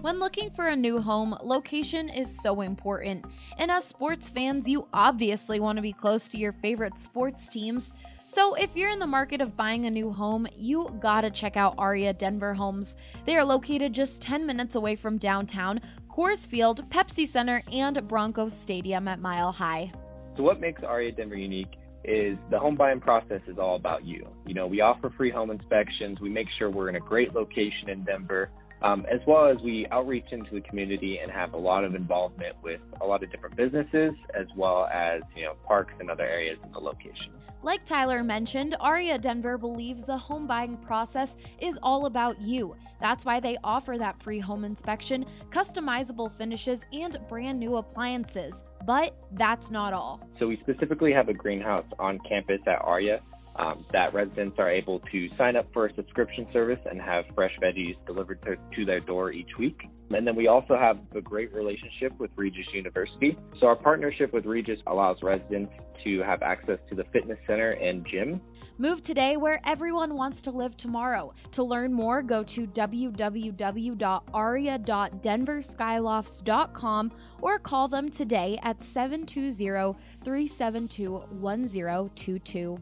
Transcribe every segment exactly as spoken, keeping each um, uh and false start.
When looking for a new home, location is so important. And as sports fans, you obviously want to be close to your favorite sports teams. So if you're in the market of buying a new home, you gotta check out Aria Denver Homes. They are located just ten minutes away from downtown, Coors Field, Pepsi Center, and Broncos Stadium at Mile High. So what makes Aria Denver unique is the home buying process is all about you. You know, we offer free home inspections. We make sure we're in a great location in Denver. Um, as well as we outreach into the community and have a lot of involvement with a lot of different businesses, as well as, you know, parks and other areas in the location. Like Tyler mentioned, Aria Denver believes the home buying process is all about you. That's why they offer that free home inspection, customizable finishes, and brand new appliances. But that's not all. So we specifically have a greenhouse on campus at Aria. Um, that residents are able to sign up for a subscription service and have fresh veggies delivered to, to their door each week. And then we also have a great relationship with Regis University. So our partnership with Regis allows residents to have access to the fitness center and gym. Move today where everyone wants to live tomorrow. To learn more, go to w w w dot aria dot denver skylofts dot com or call them today at seven two zero, three seven two, one zero two two.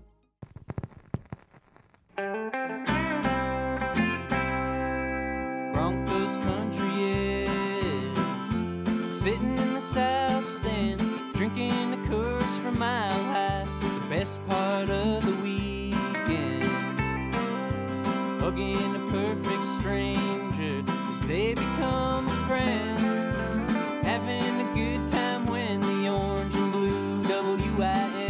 Broncos country is sitting in the south stands, drinking the Coors from Mile High. The best part of the weekend, hugging a perfect stranger as they become a friend, having a good time when the orange and blue W I N.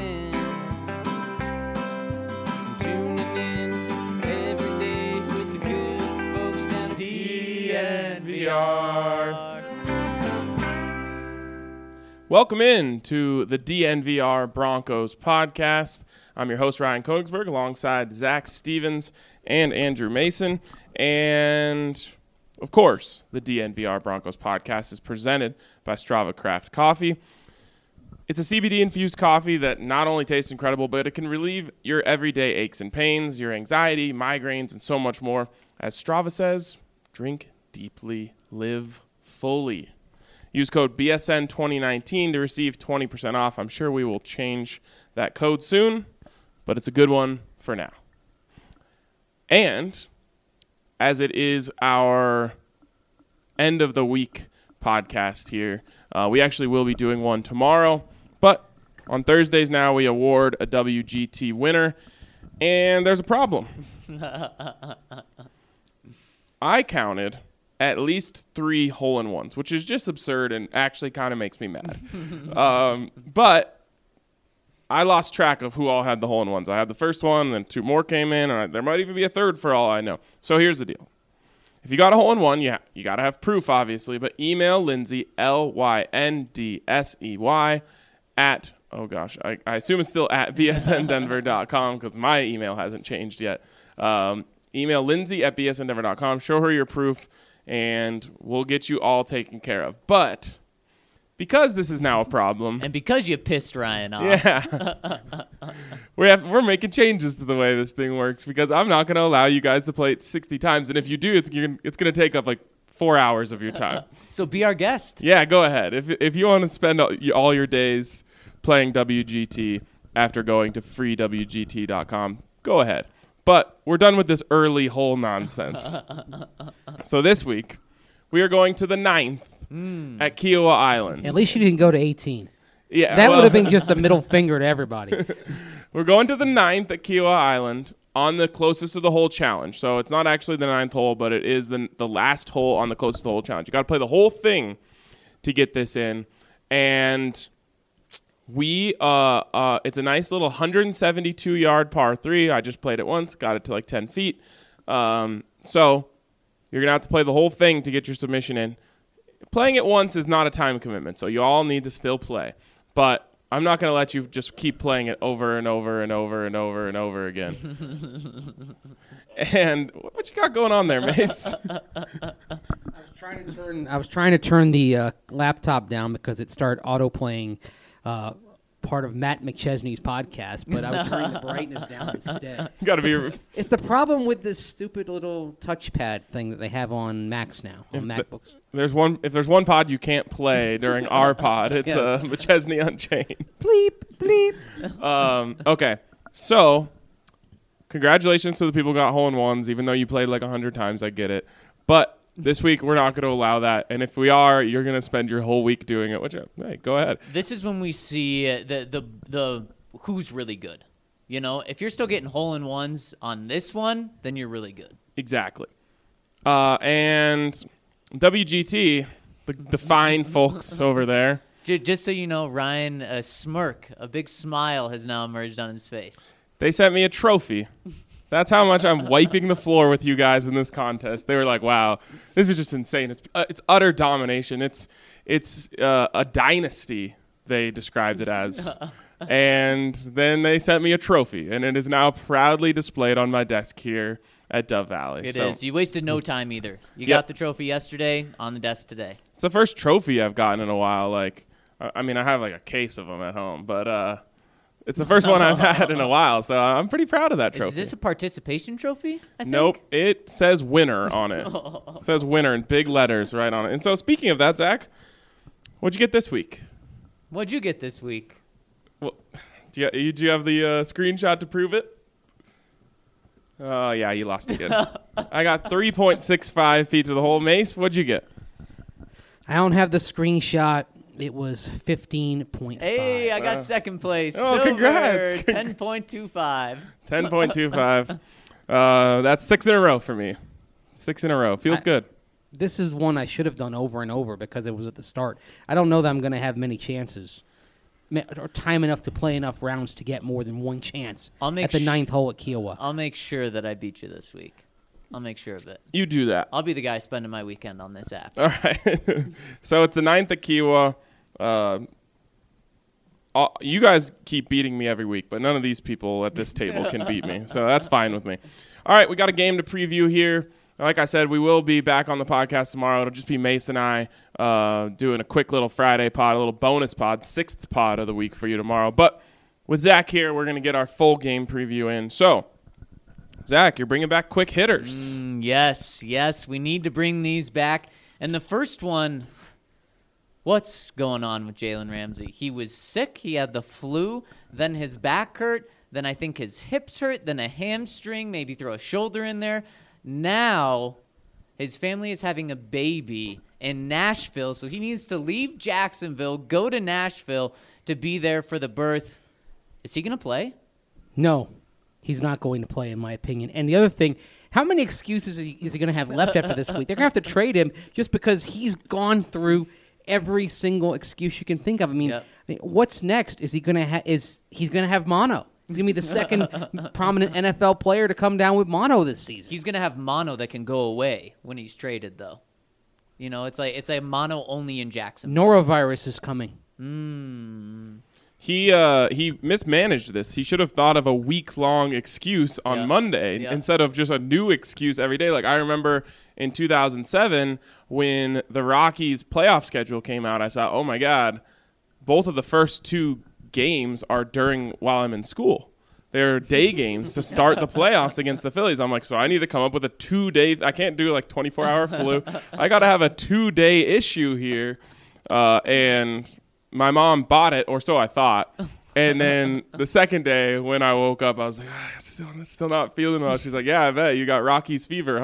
Welcome in to the D N V R Broncos podcast. I'm your host, Ryan Koenigsberg, alongside Zach Stevens and Andrew Mason. And, of course, the D N V R Broncos podcast is presented by Strava Craft Coffee. It's a C B D-infused coffee that not only tastes incredible, but it can relieve your everyday aches and pains, your anxiety, migraines, and so much more. As Strava says, drink deeply, live fully. Use code B S N twenty nineteen to receive twenty percent off. I'm sure we will change that code soon, but it's a good one for now. And as it is our end of the week podcast here, uh, we actually will be doing one tomorrow, but on Thursdays now we award a W G T winner, and there's a problem. I counted at least three hole-in-ones, which is just absurd and actually kind of makes me mad. um, but I lost track of who all had the hole-in-ones. I had the first one, and then two more came in, and I, there might even be a third for all I know. So here's the deal. If you got a hole-in-one, yeah, you got to have proof, obviously, but email Lindsay, L Y N D S E Y, at, oh gosh, I, I assume it's still at b s n denver dot com because my email hasn't changed yet. Um, email Lindsay at b s n denver dot com, show her your proof, and we'll get you all taken care of. But because this is now a problem, and because you pissed Ryan off, yeah, we're have, we're making changes to the way this thing works because I'm not going to allow you guys to play it sixty times, and if you do, it's you're, it's going to take up like four hours of your time. So be our guest. Yeah, go ahead. If if you want to spend all, all your days playing W G T after going to free w g t dot com, go ahead. But we're done with this early hole nonsense. So this week, we are going to the ninth mm. at Kiowa Island. At least you didn't go to eighteen. Yeah, that well, would have been just a middle finger to everybody. We're going to the ninth at Kiowa Island on the closest to the hole challenge. So it's not actually the ninth hole, but it is the the last hole on the closest to the hole challenge. You got to play the whole thing to get this in. And we, uh, uh, it's a nice little one hundred seventy-two yard par three. I just played it once, got it to like ten feet. Um, so you're going to have to play the whole thing to get your submission in. Playing it once is not a time commitment, so you all need to still play. But I'm not going to let you just keep playing it over and over and over and over and over again. And what you got going on there, Mace? I was trying to turn. I was trying to turn the uh, laptop down because it started auto playing uh, part of Matt McChesney's podcast, but I was turning the brightness down instead. Got to be. It's the problem with this stupid little touchpad thing that they have on Macs now, on If the- MacBooks. There's one. If there's one pod you can't play during our pod, it's Yes. uh, McChesney Unchained. Bleep, bleep. Um, okay, so congratulations to the people who got hole in ones. Even though you played like a hundred times, I get it. But this week we're not going to allow that. And if we are, you're going to spend your whole week doing it. Which, uh, hey, go ahead. This is when we see uh, the the the who's really good. You know, if you're still getting hole in ones on this one, then you're really good. Exactly. Uh, and W G T, the, the fine folks over there. J- just so you know, Ryan, a smirk, a big smile has now emerged on his face. They sent me a trophy. That's how much I'm wiping the floor with you guys in this contest. They were like, "Wow, this is just insane. It's uh, it's utter domination. It's it's uh, a dynasty." They described it as, and then they sent me a trophy, and it is now proudly displayed on my desk here at Dove Valley. It so is. You wasted no time either. You Yep. got the trophy yesterday, on the desk today. It's the first trophy I've gotten in a while. Like, I I mean, I have like a case of them at home, but uh, it's the first one I've had in a while, so I'm pretty proud of that trophy. Is this a participation trophy? I think? Nope, it says winner on it. It says winner in big letters right on it. And so speaking of that, Zach, what'd you get this week? What'd you get this week? Well, do you, you- do you have the uh, screenshot to prove it? Oh, yeah, you lost again. I got three point six five feet to the hole. Mace, what'd you get? I don't have the screenshot. It was fifteen point five. Hey, I got second place. oh, Silver, congrats. ten point two five. ten point two five. Uh, that's six in a row for me. Six in a row. Feels I- good. This is one I should have done over and over because it was at the start. I don't know that I'm going to have many chances ma- or time enough to play enough rounds to get more than one chance I'll make at the sh- ninth hole at Kiowa. I'll make sure that I beat you this week. I'll make sure of it. You do that. I'll be the guy spending my weekend on this app. All right. So it's the ninth at Kiowa. Uh, all- you guys keep beating me every week, but none of these people at this table can beat me. So that's fine with me. All right, we got a game to preview here. Like I said, we will be back on the podcast tomorrow. It'll just be Mace and I uh, doing a quick little Friday pod, a little bonus pod, sixth pod of the week for you tomorrow. But with Zach here, we're going to get our full game preview in. So, Zach, you're bringing back quick hitters. Mm, yes, yes, we need to bring these back. And the first one, what's going on with Jalen Ramsey? He was sick. He had the flu. Then his back hurt. Then I think his hips hurt. Then a hamstring. Maybe throw a shoulder in there. Now his family is having a baby in Nashville, so he needs to leave Jacksonville, go to Nashville to be there for the birth. Is he going to play? No, he's not going to play, in my opinion. And the other thing, how many excuses is he, is he going to have left after this week? They're going to have to trade him just because he's gone through every single excuse you can think of. I mean, Yep. I mean, what's next? Is he going to ha- is he's going to have mono? He's going to be the second prominent N F L player to come down with mono this season. He's going to have mono that can go away when he's traded, though. You know, it's like it's a mono only in Jacksonville. Norovirus is coming. Mm. He uh, he mismanaged this. He should have thought of a week long excuse on Yeah. Monday Yeah. instead of just a new excuse every day. Like I remember in two thousand seven when the Rockies playoff schedule came out, I saw, oh my God, both of the first two games are during while I'm in school. They're day games to start the playoffs against the Phillies. I'm like, so I need to come up with a two day. I can't do like twenty-four hour flu. I got to have a two day issue here, uh, and. My mom bought it, or so I thought. And then the second day when I woke up, I was like, ah, still, still not feeling well. She's like, yeah, I bet you got Rockies fever,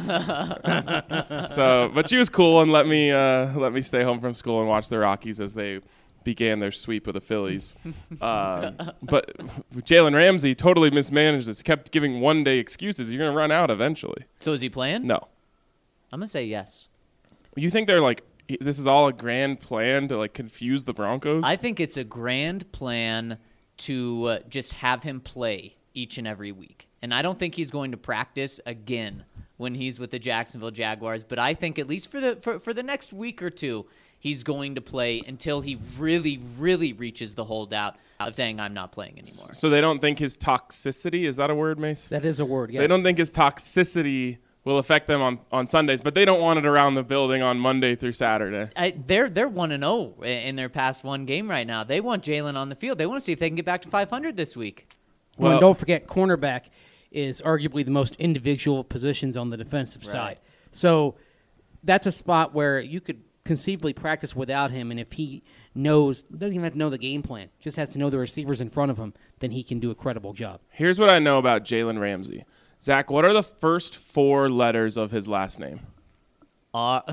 huh? So, but she was cool and let me uh, let me stay home from school and watch the Rockies as they began their sweep of the Phillies. Um, but Jalen Ramsey totally mismanaged this. Kept giving one day excuses. You're gonna run out eventually. So is he playing? No, I'm going to say yes. you think they're like. This is all a grand plan to like confuse the Broncos? I think it's a grand plan to uh, just have him play each and every week. And I don't think he's going to practice again when he's with the Jacksonville Jaguars. But I think at least for the for, for the next week or two, he's going to play until he really, really reaches the holdout of saying, I'm not playing anymore. So they don't think his toxicity, is that a word, Mace? That is a word, yes. They don't think his toxicity will affect them on, on Sundays, but they don't want it around the building on Monday through Saturday. I, they're they're one and zero in their past one game right now. They want Jalen on the field. They want to see if they can get back to five hundred this week. Well, Well- and don't forget, cornerback is arguably the most individual positions on the defensive side. So that's a spot where you could conceivably practice without him, and if he knows, doesn't even have to know the game plan, just has to know the receivers in front of him, then he can do a credible job. Here's what I know about Jalen Ramsey. Zach, what are the first four letters of his last name? Uh,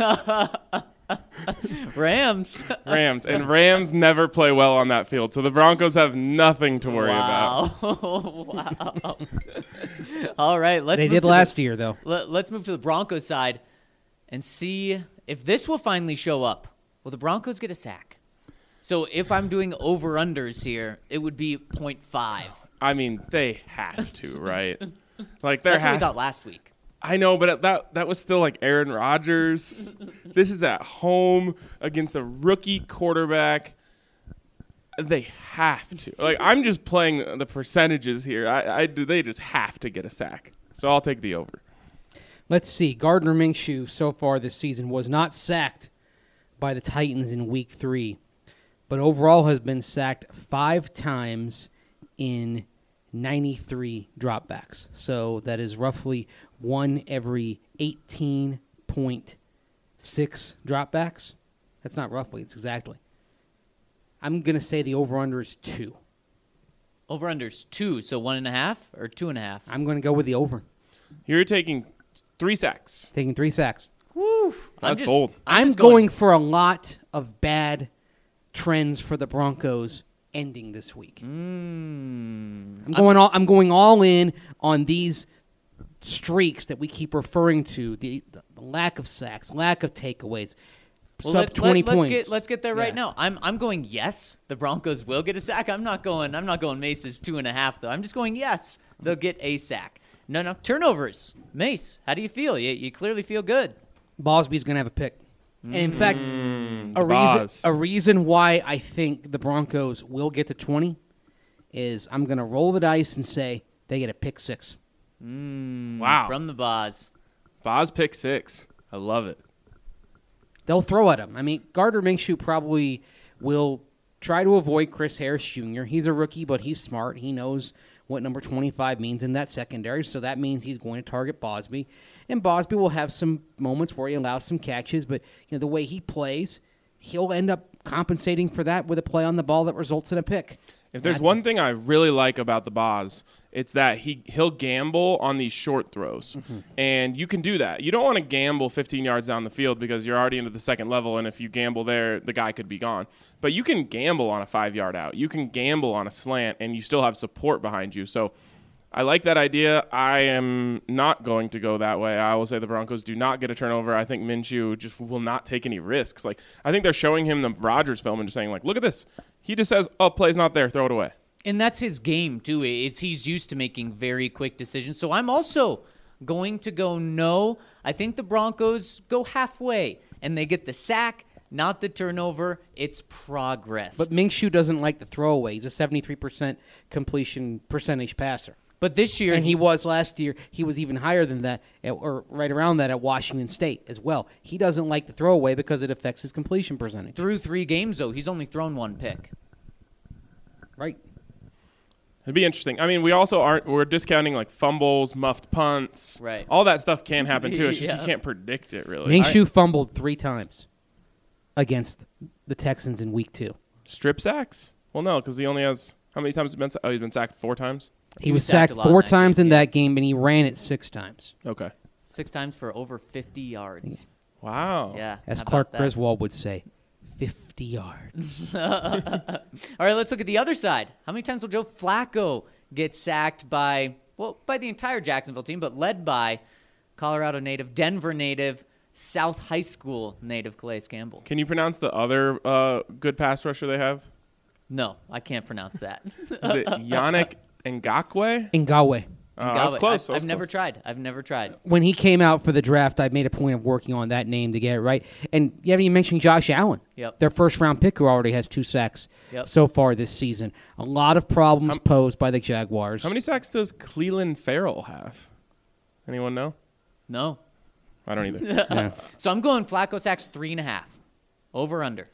Rams. Rams. And Rams never play well on that field, so the Broncos have nothing to worry about. Wow. Wow. All right, let's They move did to last the, year, though. Let, let's move to the Broncos side and see if this will finally show up. Will the Broncos get a sack? So if I'm doing over-unders here, it would be point five. I mean, they have to, right? Like they're That's what we ha- thought last week. I know, but that that was still like Aaron Rodgers. This is at home against a rookie quarterback. They have to. Like I'm just playing the percentages here. I, I do. They just have to get a sack. So I'll take the over. Let's see. Gardner Minshew so far this season was not sacked by the Titans in week three, but overall has been sacked five times in ninety-three dropbacks. So that is roughly one every eighteen point six dropbacks. That's not roughly, it's exactly. I'm going to say the over-under is two. Over-unders two, so one and a half or two and a half? I'm going to go with the over. You're taking three sacks. Taking three sacks. Woo! That's I'm just, bold. I'm, just going for a lot of bad trends for the Broncos ending this week. Mm, I'm going all I'm going all in on these streaks that we keep referring to, the, the lack of sacks, lack of takeaways, well, sub let, twenty let, points. Let's get, let's get there right Yeah. now. I'm I'm going yes. The Broncos will get a sack. I'm not going. I'm not going Mace's two and a half though. I'm just going yes. They'll get a sack. No, no turnovers. Mace, how do you feel? You you clearly feel good. Bosby's going to have a pick. And in fact, Mm, a the reason Boz. a reason why I think the Broncos will get to twenty is I'm going to roll the dice and say they get a pick six. Mm, Wow. From the Boz. Boz pick six. I love it. They'll throw at him. I mean, Gardner Minshew probably will try to avoid Chris Harris Junior He's a rookie, but he's smart. He knows what number twenty-five means in that secondary, so that means he's going to target Bosby. And Bosby will have some moments where he allows some catches, but you know the way he plays, he'll end up compensating for that with a play on the ball that results in a pick. If there's one thing I really like about the Boz, it's that he he'll gamble on these short throws, Mm-hmm. and you can do that. You don't want to gamble fifteen yards down the field because you're already into the second level, and if you gamble there, the guy could be gone. But you can gamble on a five yard out. You can gamble on a slant, and you still have support behind you. So I like that idea. I am not going to go that way. I will say the Broncos do not get a turnover. I think Minshew just will not take any risks. Like I think they're showing him the Rodgers film and just saying, like, look at this. He just says, oh, play's not there. Throw it away. And that's his game, too. Is he's used to making very quick decisions. So I'm also going to go no. I think the Broncos go halfway, and they get the sack, not the turnover. It's progress. But Minshew doesn't like the throwaway. He's a seventy-three percent completion percentage passer. But this year, And he was last year. He was even higher than that, at, or right around that at Washington State as well. He doesn't like the throwaway because it affects his completion percentage. through three games, though, he's only thrown one pick. Right. It'd be interesting. I mean, we also aren't, we're discounting like fumbles, muffed punts. Right. All that stuff can happen too. It's just Yeah. you can't predict it really. Minshew fumbled three times against the Texans in week two. Strip sacks? Well, no, because he only has, how many times has he been sacked? Oh, he's been sacked four times? He, was sacked, a lot in four that times game, in yeah. that game, and he ran it six times. Okay. Six times for over fifty yards. Wow. Yeah. As how about Clark that? Griswold would say, fifty yards. All right, let's look at the other side. How many times will Joe Flacco get sacked by, well, by the entire Jacksonville team, but led by Colorado native, Denver native, South High School native Calais Campbell? Can you pronounce the other uh, good pass rusher they have? No, I can't pronounce that. Is it Yannick Ngakwe? Ngawe. Oh, that was Ngawe. close. I've, that was I've never close. tried. I've never tried. When he came out for the draft, I made a point of working on that name to get it right. And you haven't even mentioned Josh Allen, Yep. their first-round pick, who already has two sacks Yep. so far this season. A lot of problems posed by the Jaguars. How many sacks does Cleveland Farrell have? Anyone know? No. I don't either. Yeah. So I'm going Flacco sacks three and a half. Over under.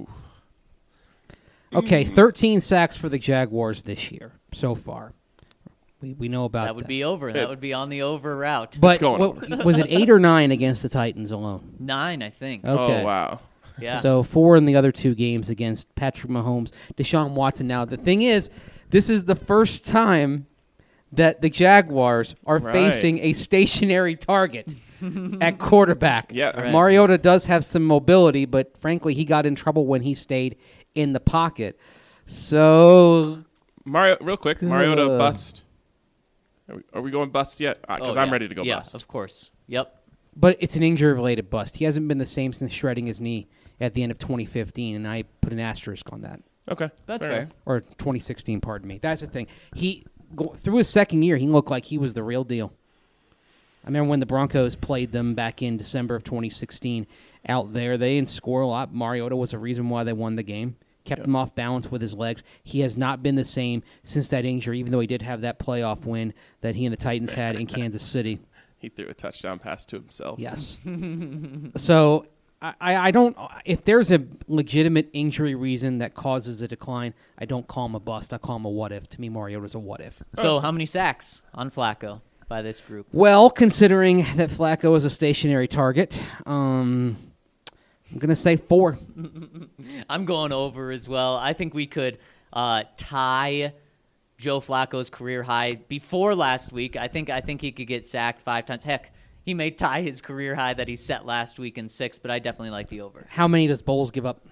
Okay, thirteen sacks for the Jaguars this year so far. We we know about That would be over. That would be on the over route. But going what, was it eight or nine against the Titans alone? Nine, I think. Okay. Oh, wow. Yeah. So four in the other two games against Patrick Mahomes, Deshaun Watson. Now the thing is, this is the first time that the Jaguars are Right. facing a stationary target at quarterback. Yeah. Right. Mariota does have some mobility, but frankly, he got in trouble when he stayed in the pocket. So Mario, real quick, Mariota Ugh. bust. Are we, are we going bust yet? Because Oh, I'm yeah. ready to go yeah, bust. of course. Yep. But it's an injury-related bust. He hasn't been the same since shredding his knee at the end of twenty fifteen, and I put an asterisk on that. Okay. That's fair fair. enough. Or twenty sixteen, pardon me. That's the thing. He go, through his second year, he looked like he was the real deal. I remember when the Broncos played them back in December of twenty sixteen out there. They didn't score a lot. Mariota was a reason why they won the game. Kept Yeah. him off balance with his legs. He has not been the same since that injury, even though he did have that playoff win that he and the Titans had in Kansas City. He threw a touchdown pass to himself. Yes. So I, I don't. If there's a legitimate injury reason that causes a decline, I don't call him a bust. I call him a what if. To me, Mariota's a what if. So how many sacks on Flacco by this group? Well, considering that Flacco is a stationary target, um, I'm gonna say four. I'm going over as well. I think we could uh, tie Joe Flacco's career high before last week. I think I think he could get sacked five times. Heck, he may tie his career high that he set last week in six, but I definitely like the over. How many does Bowles give up?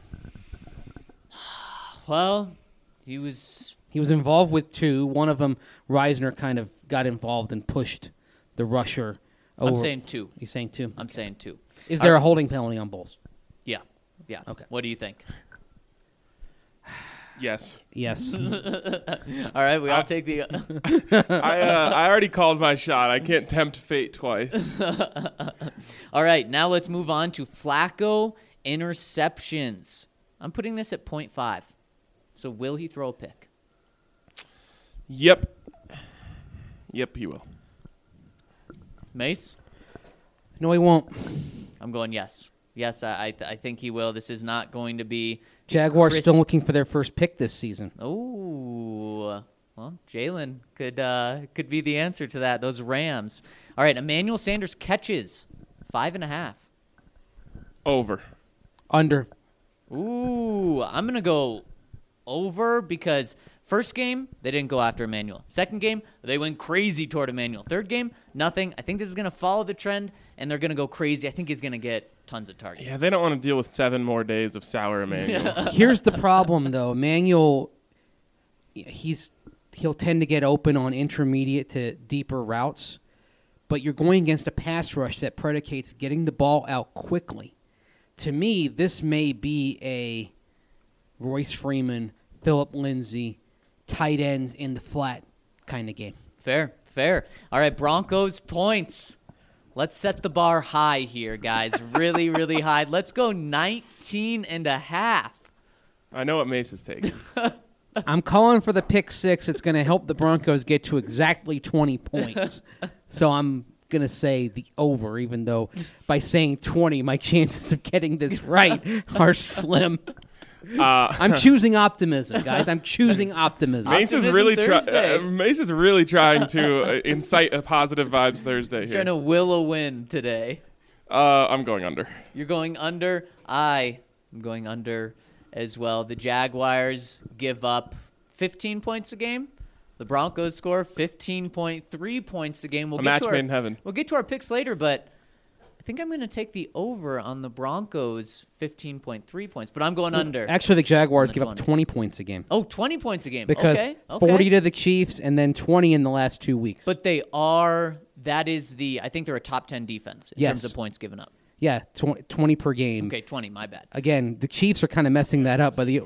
Well, he was He was involved with two. One of them, Reisner, kind of got involved and pushed the rusher over. I'm saying two. You're saying two. I'm saying two. Is there a holding penalty on Bowles? Yeah. Yeah. Okay. What do you think? Yes. Yes. All right, we all take the I uh, I already called my shot. I can't tempt fate twice. All right, now let's move on to Flacco interceptions. I'm putting this at point five. So will he throw a pick? Yep. Yep, he will. Mace? No, he won't. I'm going yes. Yes, I I, th- I think he will. This is not going to be Jaguars crisp- still looking for their first pick this season. Oh, well, Jalen could uh, could be the answer to that. Those Rams. All right, Emmanuel Sanders catches five and a half. Over. Under. Ooh, I'm gonna go over because first game they didn't go after Emmanuel. Second game they went crazy toward Emmanuel. Third game nothing. I think this is gonna follow the trend and they're gonna go crazy. I think he's gonna get tons of targets. Yeah, they don't want to deal with seven more days of sour Emmanuel. Here's the problem, though. Emmanuel, he's he'll tend to get open on intermediate to deeper routes, but you're going against a pass rush that predicates getting the ball out quickly. To me, this may be a Royce Freeman, Philip Lindsay, tight ends in the flat kind of game. Fair, fair. All right, Broncos points. Let's set the bar high here, guys. Really, really high. Let's go nineteen and a half. I know what Mace is taking. I'm calling for the pick six. It's going to help the Broncos get to exactly twenty points. So I'm going to say the over, even though by saying twenty, my chances of getting this right are slim. Uh, I'm choosing optimism, guys. I'm choosing optimism. Mace is Optimism really Thursday. trying. Uh, Mace is really trying to uh, incite a positive vibes Thursday here. Trying to will a win today. Uh, I'm going under. You're going under. I am going under as well. The Jaguars give up fifteen points a game. The Broncos score fifteen point three points a game. We'll A get match to our, made in heaven. We'll get to our picks later, but I think I'm going to take the over on the Broncos fifteen point three points, but I'm going under. Actually, the Jaguars I'm give up twenty. twenty points a game Oh, twenty points a game. because okay, okay. forty to the Chiefs and then twenty in the last two weeks. But they are, that is the, I think they're a top ten defense in Yes. terms of points given up. yeah, tw- twenty per game. Okay, twenty, my bad. Again, the Chiefs are kind of messing that up, but the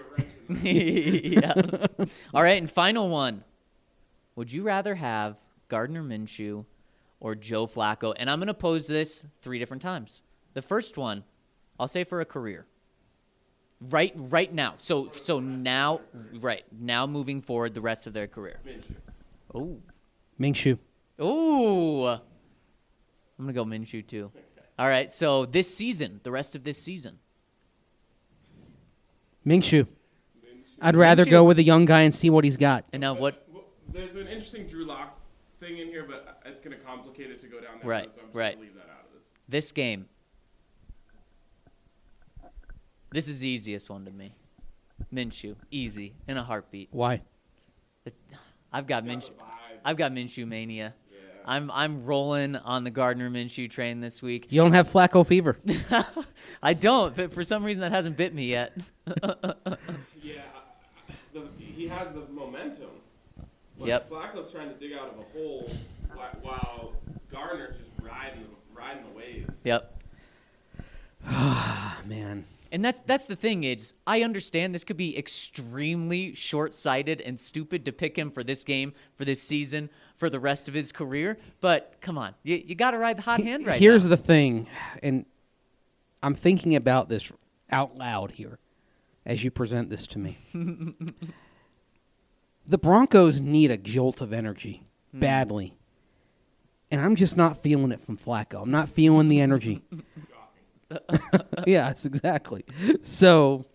yeah. All right, and final one. Would you rather have Gardner Minshew or Joe Flacco? And I'm going to pose this three different times. The first one, I'll say for a career. Right right now. So so now, right, now moving forward the rest of their career. Oh. Minshew. Ooh. I'm going to go Minshew, too. All right, so this season, the rest of this season. Minshew. I'd rather Minshew. go with a young guy and see what he's got. And now what? Well, there's an interesting Drew Lock thing in here, but it's going to complicate it to go down that Right, road, so I'm just right. going to leave that out of this. This game. This is the easiest one to me. Minshew, easy, in a heartbeat. Why? I've got Minshew. I've got Minshew mania. I'm I'm rolling on the Gardner Minshew train this week. You don't have Flacco fever. I don't, but for some reason that hasn't bit me yet. Yeah, the, he has the momentum. But Yep. Flacco's trying to dig out of a hole whi- while Gardner's just riding riding the wave. Yep. Ah, man. And that's that's the thing is I understand this could be extremely short-sighted and stupid to pick him for this game, for this season, for the rest of his career. But come on, you, you got to ride the hot hand right Here's now. the thing, and I'm thinking about this out loud here as you present this to me. The Broncos need a jolt of energy badly. And I'm just not feeling it from Flacco. I'm not feeling the energy. Yes, exactly. So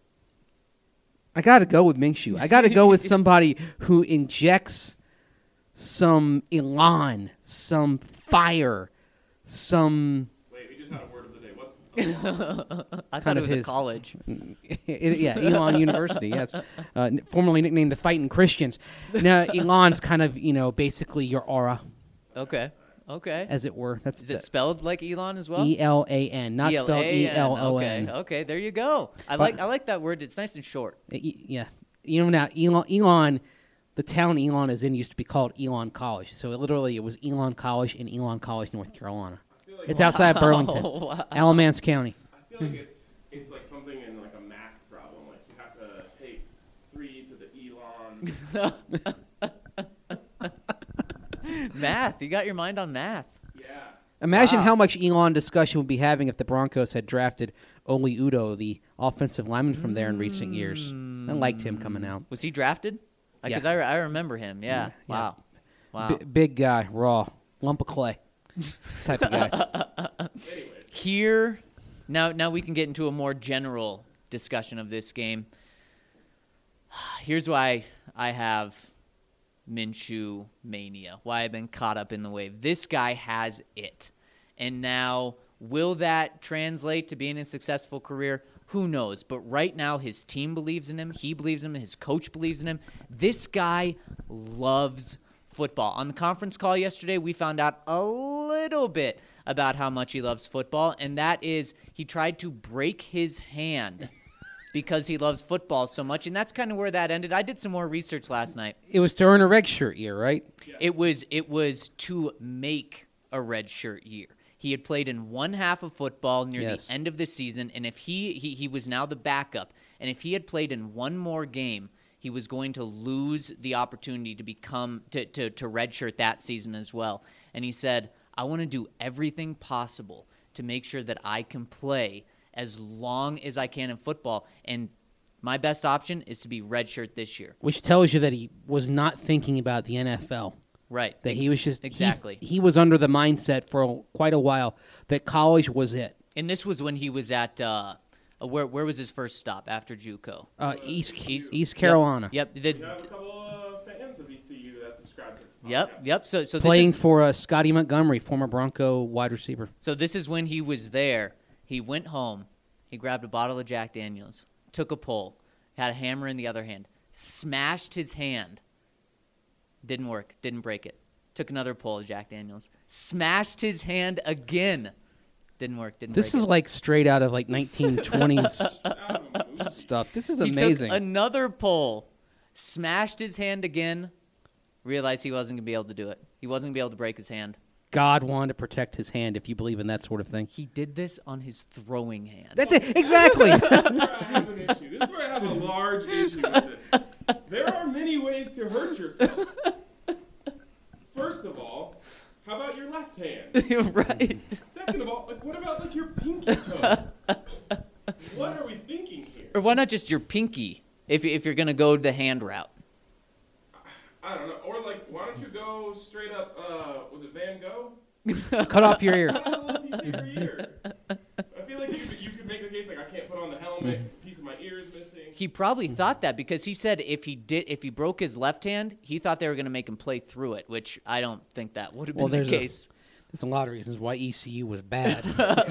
I got to go with Minshew. I got to go with somebody who injects some elan, some fire, some Wait, we just had a word of the day. What's I thought kind it of was his- a college. it, yeah, Elon University, yes, uh, n- formerly nicknamed the Fighting Christians. Now, Elon's kind of, you know, basically your aura, Okay, okay. as it were. That's Is it spelled like Elon as well? E L A N, not spelled E L O N. Okay, okay, there you go. I like I like that word. It's nice and short. E- Yeah, you know now Elon, Elon, the town Elon is in used to be called Elon College. So it literally, it was Elon College in Elon College, North Carolina. It's outside Burlington, Oh, wow. Alamance County. I feel like it's it's like something in like a math problem. Like you have to take three to the Elon. Math. You got your mind on math. Yeah. Imagine Wow. how much Elon discussion we'd be having if the Broncos had drafted Oli Udo, the offensive lineman from there in recent years. I liked him coming out. Was he drafted? Because Yeah. I, re- I remember him. Yeah. Yeah, yeah. Wow. Wow. B- big guy, raw, lump of clay type of guy. Here, now now we can get into a more general discussion of this game. Here's why I have Minshew mania, why I've been caught up in the wave. This guy has it. And now, will that translate to being a successful career? Who knows? But right now, his team believes in him. He believes in him. His coach believes in him. This guy loves football. On the conference call yesterday, we found out a little bit about how much he loves football, and that is he tried to break his hand because he loves football so much, and that's kind of where that ended. I did some more research last night. It was during a red shirt year, right? It was it was to make a red shirt year. He had played in one half of football near Yes. the end of the season, and if he, he he was now the backup, and if he had played in one more game, he was going to lose the opportunity to become to to, to redshirt that season as well. And he said, I want to do everything possible to make sure that I can play as long as I can in football. And my best option is to be redshirt this year. Which tells you that he was not thinking about the N F L. Right. That he Ex- was just he- exactly. He, was under the mindset for a, quite a while that college was it. And this was when he was at uh, uh, where where was his first stop after JUCO? Uh, East East- East Carolina, Yep. the- We have a couple of fans of E C U that subscribe to this podcast. Yep. Yep. So so playing this is, for uh, Scotty Montgomery, former Bronco wide receiver. so this is when he was there. He went home. He grabbed a bottle of Jack Daniels, took a pull, had a hammer in the other hand, smashed his hand. Didn't work. Didn't break it. Took another pull of Jack Daniels, smashed his hand again. Didn't work. Didn't This break is it. like straight out of like nineteen twenties stuff. This is He amazing. took another pull, smashed his hand again, realized he wasn't going to be able to do it. He wasn't going to be able to break his hand. God wanted to protect his hand, if you believe in that sort of thing. He did this on his throwing hand. That's it, exactly. This is where I have an issue. This is where I have a large issue with this. There are many ways to hurt yourself. First of all, how about your left hand? Right. Second of all, like what about like your pinky toe? What are we thinking here? Or why not just your pinky if, if you're going to go the hand route? I don't know. Or like, why don't you go straight up? Uh, was it Van Gogh? Cut off your ear. Cut out a little piece of your ear. I feel like you could, you could make the case like I can't put on the helmet because a piece of my ear is missing. He probably thought that because he said if he did, if he broke his left hand, he thought they were going to make him play through it, which I don't think that would have been Well, the there's a- case. There's a lot of reasons why E C U was bad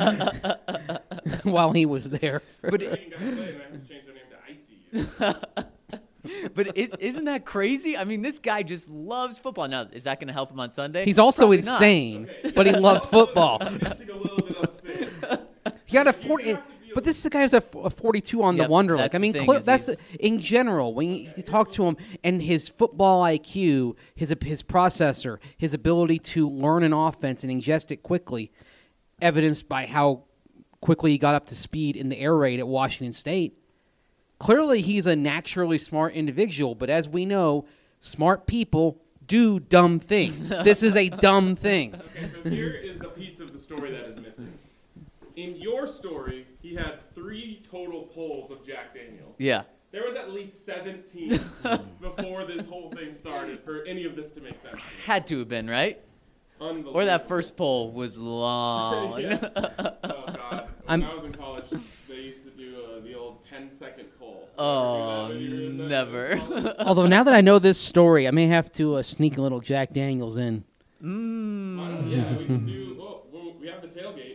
while he was there. But Dragon got played and I have to change their name to I C U. but is, isn't that crazy? I mean, this guy just loves football. Now, is that going to help him on Sunday? He's also Probably not. insane, Okay. but he loves football. Missing a little bit upstairs. He got a You forty, have to be but this is the guy who's a, f- a forty-two on Yep, the Wonderlic. that's I mean, the thing cl- is that's he's- in general when you, you talk to him and his football I Q, his his processor, his ability to learn an offense and ingest it quickly, evidenced by how quickly he got up to speed in the air raid at Washington State. Clearly, he's a naturally smart individual, but as we know, smart people do dumb things. This is a dumb thing. Okay, so here is the piece of the story that is missing. In your story, he had three total pulls of Jack Daniels. Yeah. There was at least seventeen before this whole thing started for any of this to make sense. Had to have been, right? Unbelievable. Or that first poll was long. Yeah. Oh, God. I'm- When I was in college, they used to do uh, the old ten-second poll. Oh, Remember that when you were in the- never. in college? Although now that I know this story, I may have to uh, sneak a little Jack Daniels in. Mm. Why don't- yeah, we can do. Oh, well, we have the tailgate.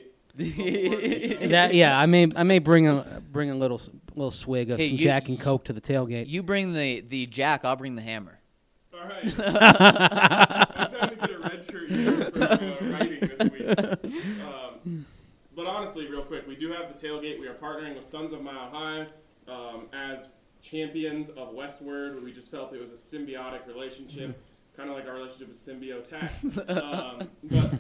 That yeah, I may I may bring a bring a little little swig of Hey, some you- Jack and Coke to the tailgate. You bring the, the jack, I'll bring the hammer. All right. I'm trying to get a red shirt here for uh, writing this week. Um, but honestly, real quick, we do have the tailgate. We are partnering with Sons of Mile High um, as champions of Westward. We just felt it was a symbiotic relationship, kind of like our relationship with Symbiotax. Um, but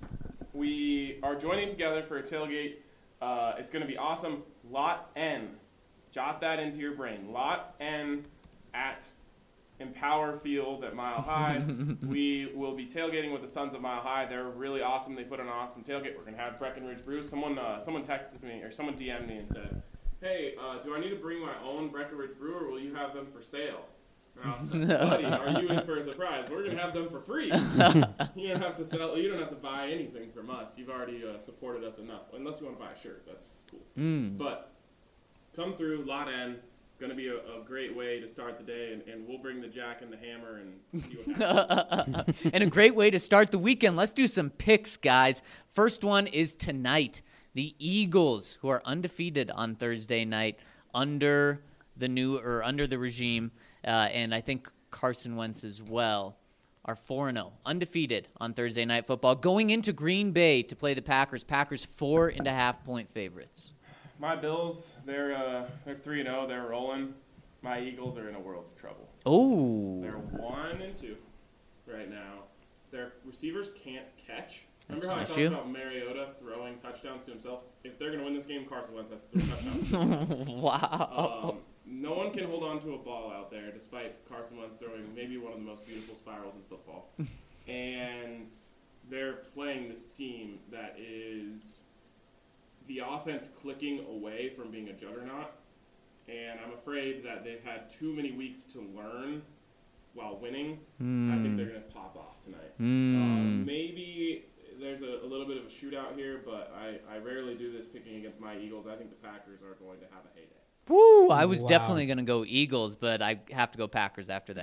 we are joining together for a tailgate. Uh, it's going to be awesome. Lot N. Jot that into your brain. Lot N at Empower Field at Mile High. We will be tailgating with the Sons of Mile High. They're really awesome. They put on an awesome tailgate. We're going to have Breckenridge Brews. Someone uh, someone texted me, or someone D M'd me and said, hey, uh, do I need to bring my own Breckenridge Brew, or will you have them for sale? And I was like, buddy, are you in for a surprise? We're going to have them for free. You don't have to sell. You don't have to buy anything from us. You've already uh, supported us enough. Unless you want to buy a shirt, that's cool. Mm. But come through Lot N. Going to be a, a great way to start the day, and, and we'll bring the jack and the hammer and see what happens. And a great way to start the weekend. Let's do some picks, guys. First one is tonight. The Eagles, who are undefeated on Thursday night under the new or under the regime, uh, and I think Carson Wentz as well, are four and oh, undefeated on Thursday Night Football, going into Green Bay to play the Packers. Packers four and a half point favorites. My Bills, they're uh, they're three and zero. They're rolling. My Eagles are in a world of trouble. Oh, They're one and two right now. Their receivers can't catch. That's Remember how an I talked issue. about Mariota throwing touchdowns to himself? If they're going to win this game, Carson Wentz has to throw touchdowns to himself. wow. Um, no one can hold on to a ball out there, despite Carson Wentz throwing maybe one of the most beautiful spirals in football. And they're playing this team that is the offense clicking away from being a juggernaut. And I'm afraid that they've had too many weeks to learn while winning. I think they're going to pop off tonight. Mm. Um, maybe there's a, a little bit of a shootout here, but I, I rarely do this picking against my Eagles. I think the Packers are going to have a heyday. Woo! I was Wow. definitely going to go Eagles, but I have to go Packers after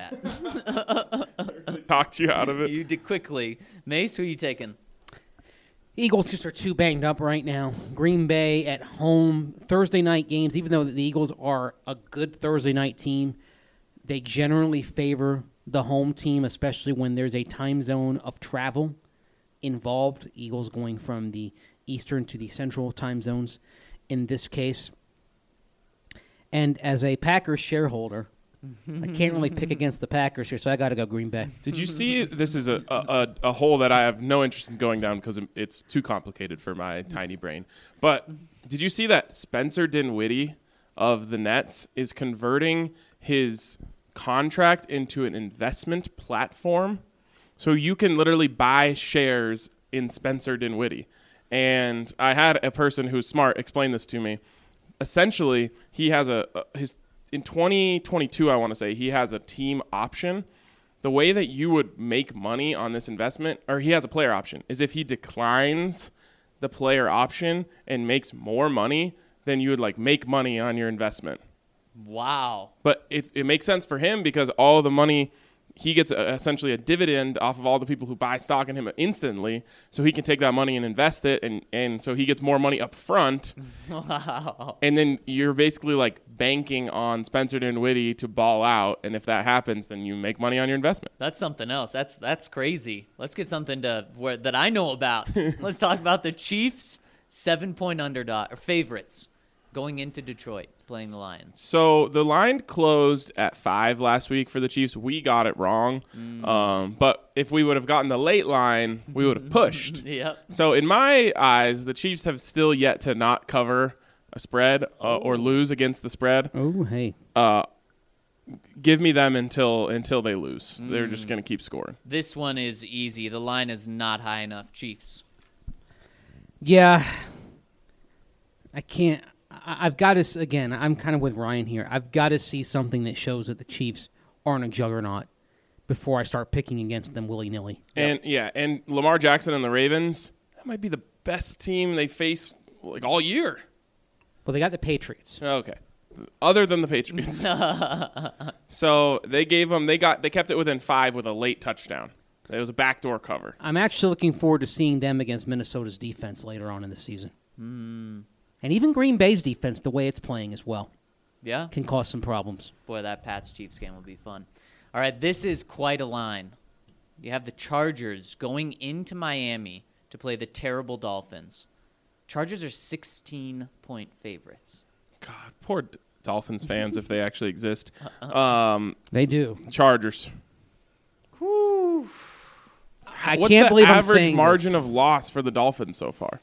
that. Talked you out of it. You did quickly. Mace, who are you taking? Eagles just are too banged up right now. Green Bay at home, Thursday night games, even though the Eagles are a good Thursday night team, they generally favor the home team, especially when there's a time zone of travel involved. Eagles going from the Eastern to the Central time zones in this case. And as a Packers shareholder, I can't really pick against the Packers here, so I got to go Green Bay. Did you see? This is a, a, a hole that I have no interest in going down because it's too complicated for my tiny brain. But did you see that Spencer Dinwiddie of the Nets is converting his contract into an investment platform? So you can literally buy shares in Spencer Dinwiddie. And I had a person who's smart explain this to me. Essentially, he has a, a his in twenty twenty-two, I want to say, he has a team option the way that you would make money on this investment, or he has a player option, is if he declines the player option and makes more money, then you would like make money on your investment. Wow. But it it makes sense for him because all the money, he gets a, essentially a dividend off of all the people who buy stock in him instantly, so he can take that money and invest it, and, and so he gets more money up front. Wow. And then you're basically like banking on Spencer Dinwiddie to ball out, and if that happens, then you make money on your investment. That's something else. That's that's crazy. Let's get something to where that I know about. Let's talk about the Chiefs, seven-point underdog or favorites going into Detroit playing the Lions. So the line closed at five last week for the Chiefs. We got it wrong, Mm. um, but if we would have gotten the late line, we would have pushed. Yep. So in my eyes, the Chiefs have still yet to not cover a spread uh, or lose against the spread. Oh, hey. Uh, give me them until until they lose. They're just going to keep scoring. This one is easy. The line is not high enough. Chiefs. Yeah. I can't. I- I've got to, again, I'm kind of with Ryan here. I've got to see something that shows that the Chiefs aren't a juggernaut before I start picking against them willy-nilly. And yeah, and Lamar Jackson and the Ravens, that might be the best team they face like all year. Well, they got the Patriots. Okay. Other than the Patriots. So they gave them they got they kept it within five with a late touchdown. It was a backdoor cover. I'm actually looking forward to seeing them against Minnesota's defense later on in the season. Mm. And even Green Bay's defense, the way it's playing as well, Yeah. can cause some problems. Boy, that Pats Chiefs game will be fun. All right, this is quite a line. You have the Chargers going into Miami to play the terrible Dolphins. Chargers are sixteen-point favorites. God, poor D- Dolphins fans if they actually exist. Um, They do. Chargers. I What's can't the believe I'm average saying margin this. of loss for the Dolphins so far?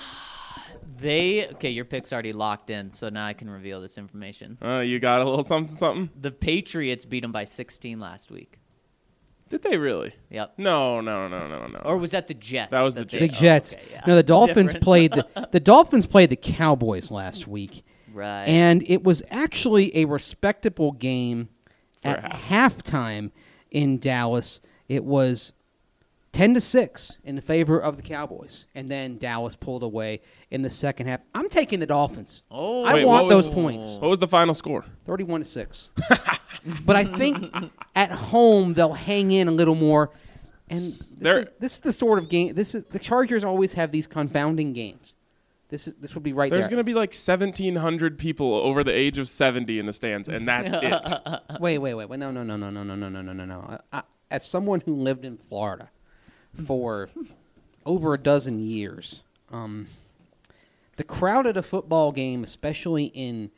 They okay, your pick's already locked in, so now I can reveal this information. Uh, you got a little something something? The Patriots beat them by sixteen last week. Did they really? Yep. No, no, no, no, no. Or was that the Jets? That was the they- The Jets. oh, Jets. okay, yeah. No, the Dolphins Different. played the, the Dolphins played the Cowboys last week, Right. and it was actually a respectable game For at halftime in Dallas. It was ten to six in favor of the Cowboys, and then Dallas pulled away in the second half. I'm taking the Dolphins. oh, I Wait, want what was- those points. What was the final score? thirty-one to six. But I think at home they'll hang in a little more. And this They're- is, this is the sort of game. This is the Chargers always have these confounding games. This is this would be right There's there. going to be like seventeen hundred people over the age of seventy in the stands, and that's it. Wait, wait, wait, wait. No, no, no, no, no, no, no, no, no, no, no. I, I, as someone who lived in Florida for over a dozen years, um, the crowd at a football game, especially in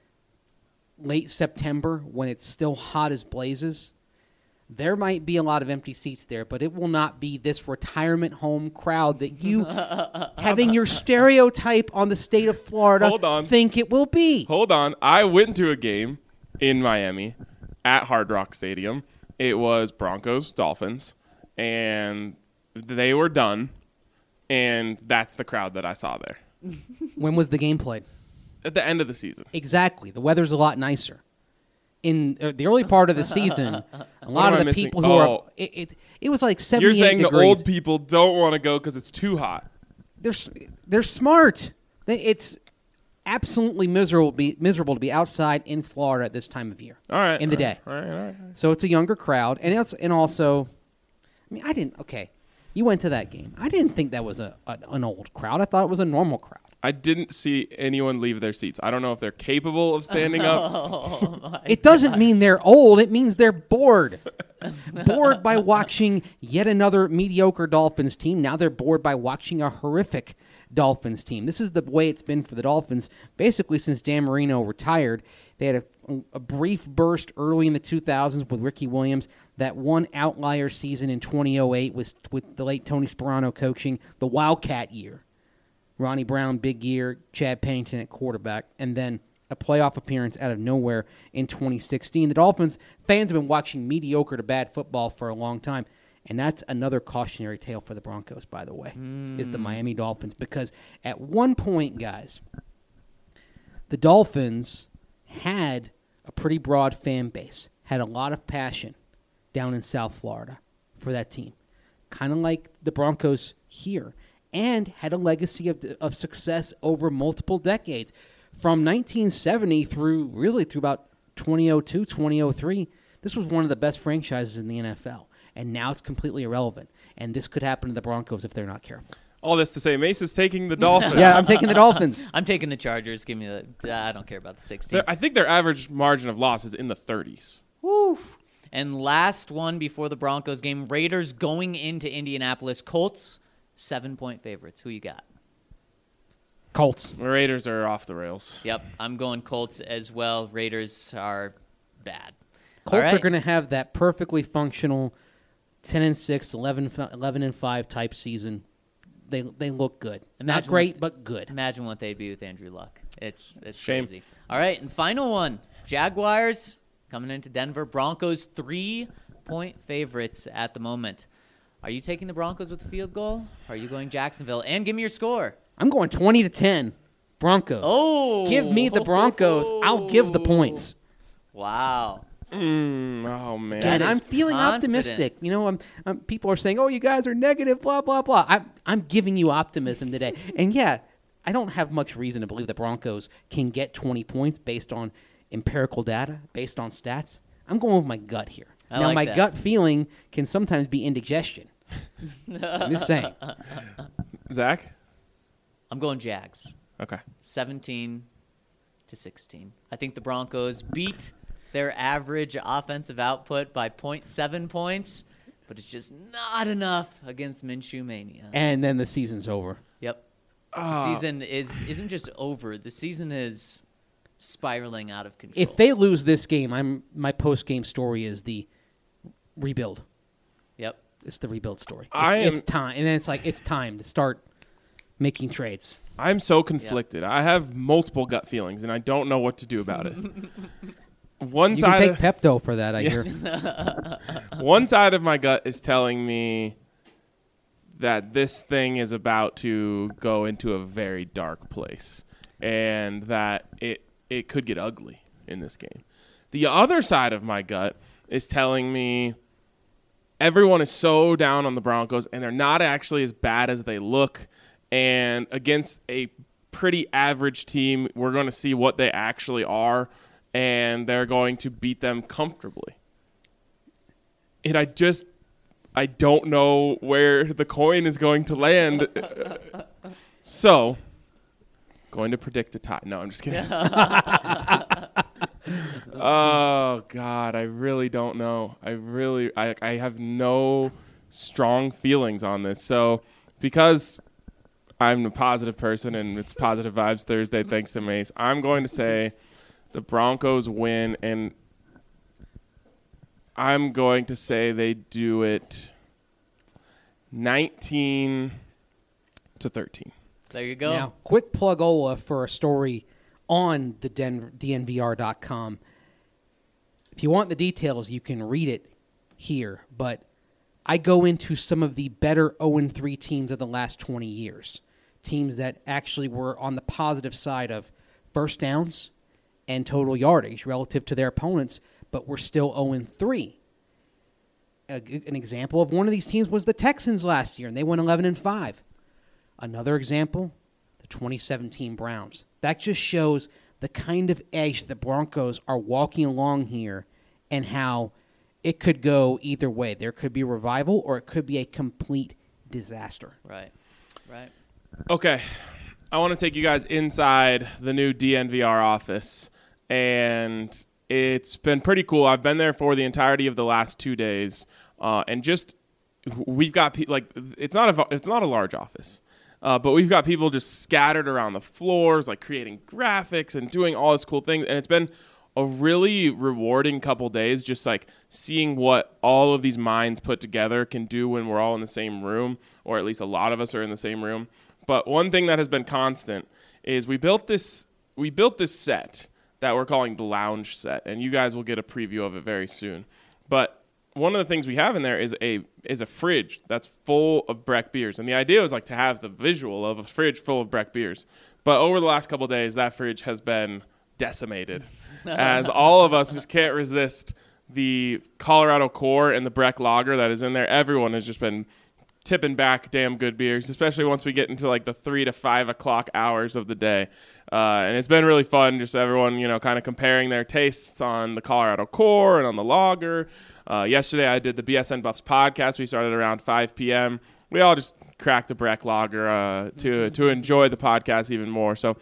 late September when it's still hot as blazes, there might be a lot of empty seats there, but it will not be this retirement home crowd that you, having your stereotype on the state of Florida, Hold on. think it will be. Hold on. I went to a game in Miami at Hard Rock Stadium. It was Broncos, Dolphins, and they were done, and that's the crowd that I saw there When was the game played? at the end of the season. Exactly. The weather's a lot nicer. In uh, the early part of the season, a lot am of I the missing? people who are Oh. it, it it was like You're seventy-eight saying degrees. the old people don't want to go because it's too hot. they're s- they're smart. They, it's absolutely miserable to be miserable to be outside in Florida at this time of year. All right. In the all right, day. All right, all right. So it's a younger crowd, and it's and also, I mean, I didn't. Okay, you went to that game. I didn't think that was a, a an old crowd. I thought it was a normal crowd. I didn't see anyone leave their seats. I don't know if they're capable of standing up. It doesn't mean they're old. It means they're bored. bored by watching yet another mediocre Dolphins team. Now they're bored by watching a horrific Dolphins team. This is the way it's been for the Dolphins basically since Dan Marino retired. They had a, a brief burst early in the two thousands with Ricky Williams. That one outlier season in twenty oh eight was with the late Tony Sperano coaching, the Wildcat year. Ronnie Brown, big year, Chad Pennington at quarterback, and then a playoff appearance out of nowhere in twenty sixteen. The Dolphins fans have been watching mediocre to bad football for a long time, and that's another cautionary tale for the Broncos, by the way, is the Miami Dolphins. Because at one point, guys, the Dolphins had a pretty broad fan base, had a lot of passion. down in South Florida for that team, kind of like the Broncos here, and had a legacy of, of success over multiple decades. From nineteen seventy through really through about twenty oh two, twenty oh three, this was one of the best franchises in the N F L, and now it's completely irrelevant. And this could happen to the Broncos if they're not careful. All this to say, Mace is taking the Dolphins. Yeah, I'm taking the Dolphins. I'm taking the Chargers. Give me the. I don't care about the sixteen. They're- I think their average margin of loss is in the thirties. Woof. And last one before the Broncos game, Raiders going into Indianapolis. Colts, seven-point favorites. Who you got? Colts. The Raiders are off the rails. Yep, I'm going Colts as well. Raiders are bad. All Colts are right. going to have that perfectly functional ten and six, eleven, eleven and five type season. They they look good. Not Imagine great, what- but good. Imagine what they'd be with Andrew Luck. It's it's Shame. crazy. All right, and final one. Jaguars coming into Denver. Broncos three-point favorites at the moment. Are you taking the Broncos with the field goal? Are you going Jacksonville? And give me your score. I'm going twenty to ten. Broncos. Oh. Give me the Broncos. I'll give the points. Wow. Mm, oh, man. That And I'm is feeling confident. optimistic. You know, I'm, I'm, people are saying, "Oh, you guys are negative." Blah blah blah. I'm I'm giving you optimism today. And yeah, I don't have much reason to believe the Broncos can get twenty points based on empirical data, based on stats. I'm going with my gut here. I now, like my that. gut feeling can sometimes be indigestion. I'm just saying. Zach? I'm going Jags. Okay. seventeen to sixteen. I think the Broncos beat their average offensive output by zero point seven points, but it's just not enough against Minshew Mania. And then the season's over. Yep. Ah. The season is isn't just over. The season is spiraling out of control. If they lose this game, I'm my post game story is the rebuild. Yep. It's the rebuild story. It's, I am- it's time, and then it's like it's time to start making trades. I'm so conflicted. I have multiple gut feelings, and I don't know what to do about it. One You can side, take of, Pepto for that, I hear. one side of my gut is telling me that this thing is about to go into a very dark place, and that it it could get ugly in this game. The other side of my gut is telling me everyone is so down on the Broncos, and they're not actually as bad as they look. And against a pretty average team, we're going to see what they actually are, and they're going to beat them comfortably. And I just, I don't know where the coin is going to land. So, going to predict a tie. No, I'm just kidding. Oh, God, I really don't know. I really, I, I have no strong feelings on this. So, because I'm a positive person and it's Positive Vibes Thursday, thanks to Mace, I'm going to say the Broncos win, and I'm going to say they do it nineteen to thirteen. There you go. Now, quick plug-ola for a story on the Den- D N V R dot com. If you want the details, you can read it here, but I go into some of the better oh and three teams of the last twenty years. Teams that actually were on the positive side of first downs and total yardage relative to their opponents, but were still oh and three. A, an example of one of these teams was the Texans last year, and they went eleven and five. Another example, the twenty seventeen Browns. That just shows the kind of edge the Broncos are walking along here and how it could go either way. There could be revival or it could be a complete disaster. Right. Right. Okay, I want to take you guys inside the new D N V R office, and it's been pretty cool. I've been there for the entirety of the last two days, uh, and just we've got pe- like it's not a it's not a large office, uh, but we've got people just scattered around the floors, like creating graphics and doing all this cool things, and it's been a really rewarding couple days, just like seeing what all of these minds put together can do when we're all in the same room, or at least a lot of us are in the same room. But one thing that has been constant is we built this we built this set that we're calling the lounge set, and you guys will get a preview of it very soon. But one of the things we have in there is a is a fridge that's full of Breck beers, and the idea was like to have the visual of a fridge full of Breck beers. But over the last couple of days, that fridge has been decimated, as all of us just can't resist the Colorado Core and the Breck Lager that is in there. Everyone has just been tipping back damn good beers, especially once we get into like the three to five o'clock hours of the day. Uh, and it's been really fun, just everyone, you know, kind of comparing their tastes on the Colorado Core and on the lager. Uh, yesterday I did the B S N Buffs podcast. We started around five p.m. We all just cracked a Breck Lager uh, to to enjoy the podcast even more. So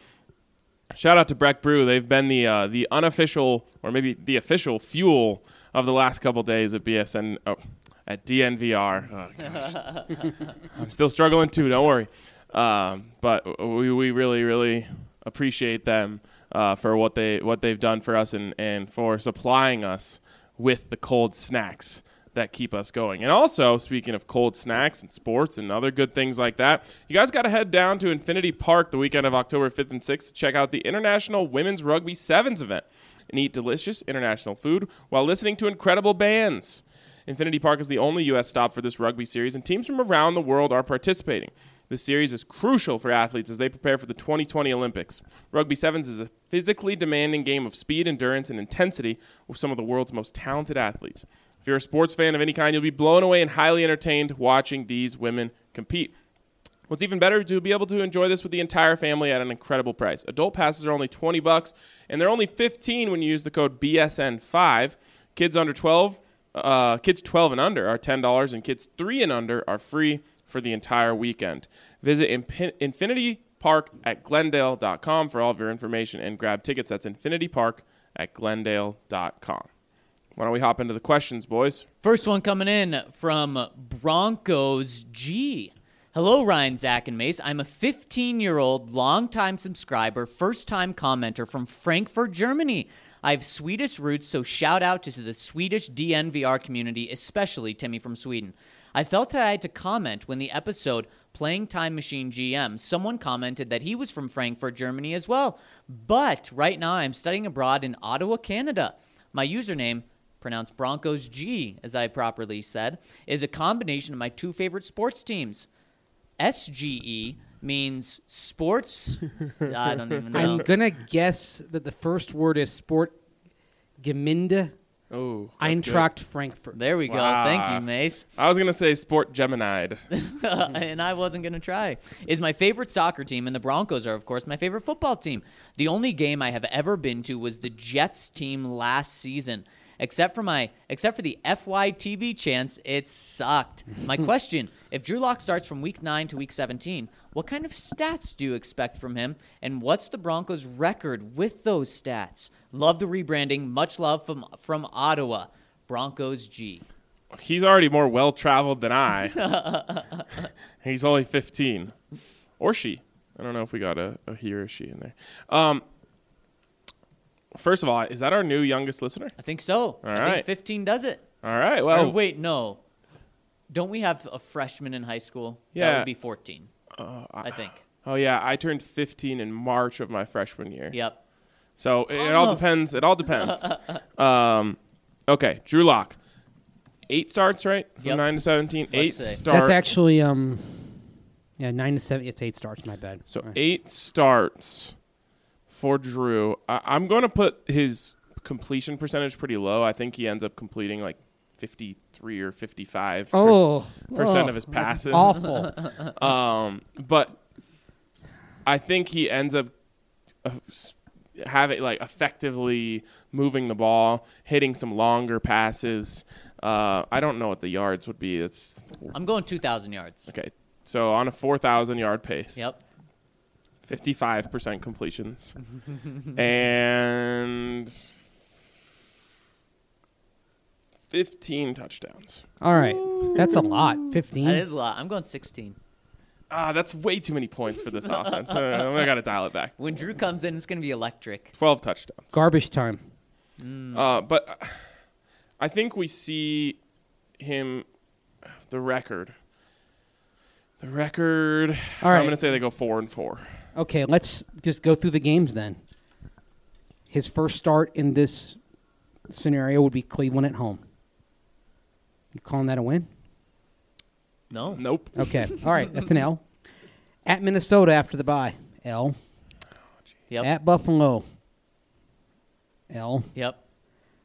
shout out to Breck Brew. They've been the uh, the unofficial, or maybe the official fuel of the last couple days at B S N. Oh, at D N V R. Oh, gosh. I'm still struggling too, don't worry. Um, but we, we really, really appreciate them uh, for what, they, what they've done for us and, and for supplying us with the cold snacks that keep us going. And also, speaking of cold snacks and sports and other good things like that, you guys got to head down to Infinity Park the weekend of October fifth and sixth to check out the International Women's Rugby Sevens event and eat delicious international food while listening to incredible bands. Infinity Park is the only U S stop for this rugby series, and teams from around the world are participating. This series is crucial for athletes as they prepare for the twenty twenty Olympics. Rugby Sevens is a physically demanding game of speed, endurance, and intensity with some of the world's most talented athletes. If you're a sports fan of any kind, you'll be blown away and highly entertained watching these women compete. What's even better is to be able to enjoy this with the entire family at an incredible price. Adult passes are only twenty bucks, and they're only fifteen when you use the code B S N five. Kids under twelve Uh, kids twelve and under are ten dollars, and kids three and under are free for the entire weekend. Visit Imp- Infinity Park at Glendale dot com for all of your information and grab tickets. That's Infinity Park at Glendale dot com. Why don't we hop into the questions, boys? First one coming in from Broncos G. Hello, Ryan, Zach, and Mace. I'm a fifteen-year-old, long-time subscriber, first-time commenter from Frankfurt, Germany. I have Swedish roots, so shout out to the Swedish D N V R community, especially Timmy from Sweden. I felt that I had to comment when the episode Playing Time Machine G M, someone commented that he was from Frankfurt, Germany as well. But right now I'm studying abroad in Ottawa, Canada. My username, pronounced Broncos G, as I properly said, is a combination of my two favorite sports teams. S G E means sports. I don't even know. I'm gonna guess that the first word is Sport Geminde Oh, Eintracht Frankfurt. There we go. Wow. Thank you, Mace. I was going to say Sport Gemini. And I wasn't going to try. Is my favorite soccer team, and the Broncos are, of course, my favorite football team. The only game I have ever been to was the Jets team last season. Except for my, except for the F Y T B chance, it sucked. My question, if Drew Lock starts from week nine to week seventeen, what kind of stats do you expect from him? And what's the Broncos' record with those stats? Love the rebranding. Much love from, from Ottawa. Broncos G. He's already more well-traveled than I. He's only fifteen. Or she. I don't know if we got a, a he or a she in there. Um, First of all, is that our new youngest listener? I think so. All I right. think fifteen does it. All right. Well, Or wait, no. Don't we have a freshman in high school? That Yeah. would be fourteen, uh, I think. oh yeah, I turned fifteen in March of my freshman year. Yep. So it, it all Almost. depends. It all depends. um, okay, Drew Lock, eight starts, right? From Yep. nine to seventeen. Let's eight say. starts. That's actually um, yeah, nine to seven. It's eight starts. My bad. So All right. eight starts for Drew. I, I'm going to put his completion percentage pretty low. I think he ends up completing like fifty-three or fifty-five Oh, percent oh, of his that's passes. awful. Um, but I think he ends up uh, s- having like effectively moving the ball, hitting some longer passes. Uh, I don't know what the yards would be. It's I'm going two thousand yards. okay. So on a four thousand yard pace. Yep. fifty-five percent completions. And fifteen touchdowns. All right, that's a lot. Fifteen. That is a lot. I'm going sixteen. Ah, that's way too many points for this offense. Uh, I got to dial it back. When Drew comes in, it's going to be electric. twelve touchdowns. Garbage time. Uh, but I think we see him, the record. The record. All right. I'm going to say they go four and four. Okay, let's just go through the games then. His first start in this scenario would be Cleveland at home. You calling that a win? No. Nope. Okay. All right, that's an L. At Minnesota after the bye, L. Yep. At Buffalo, L. Yep.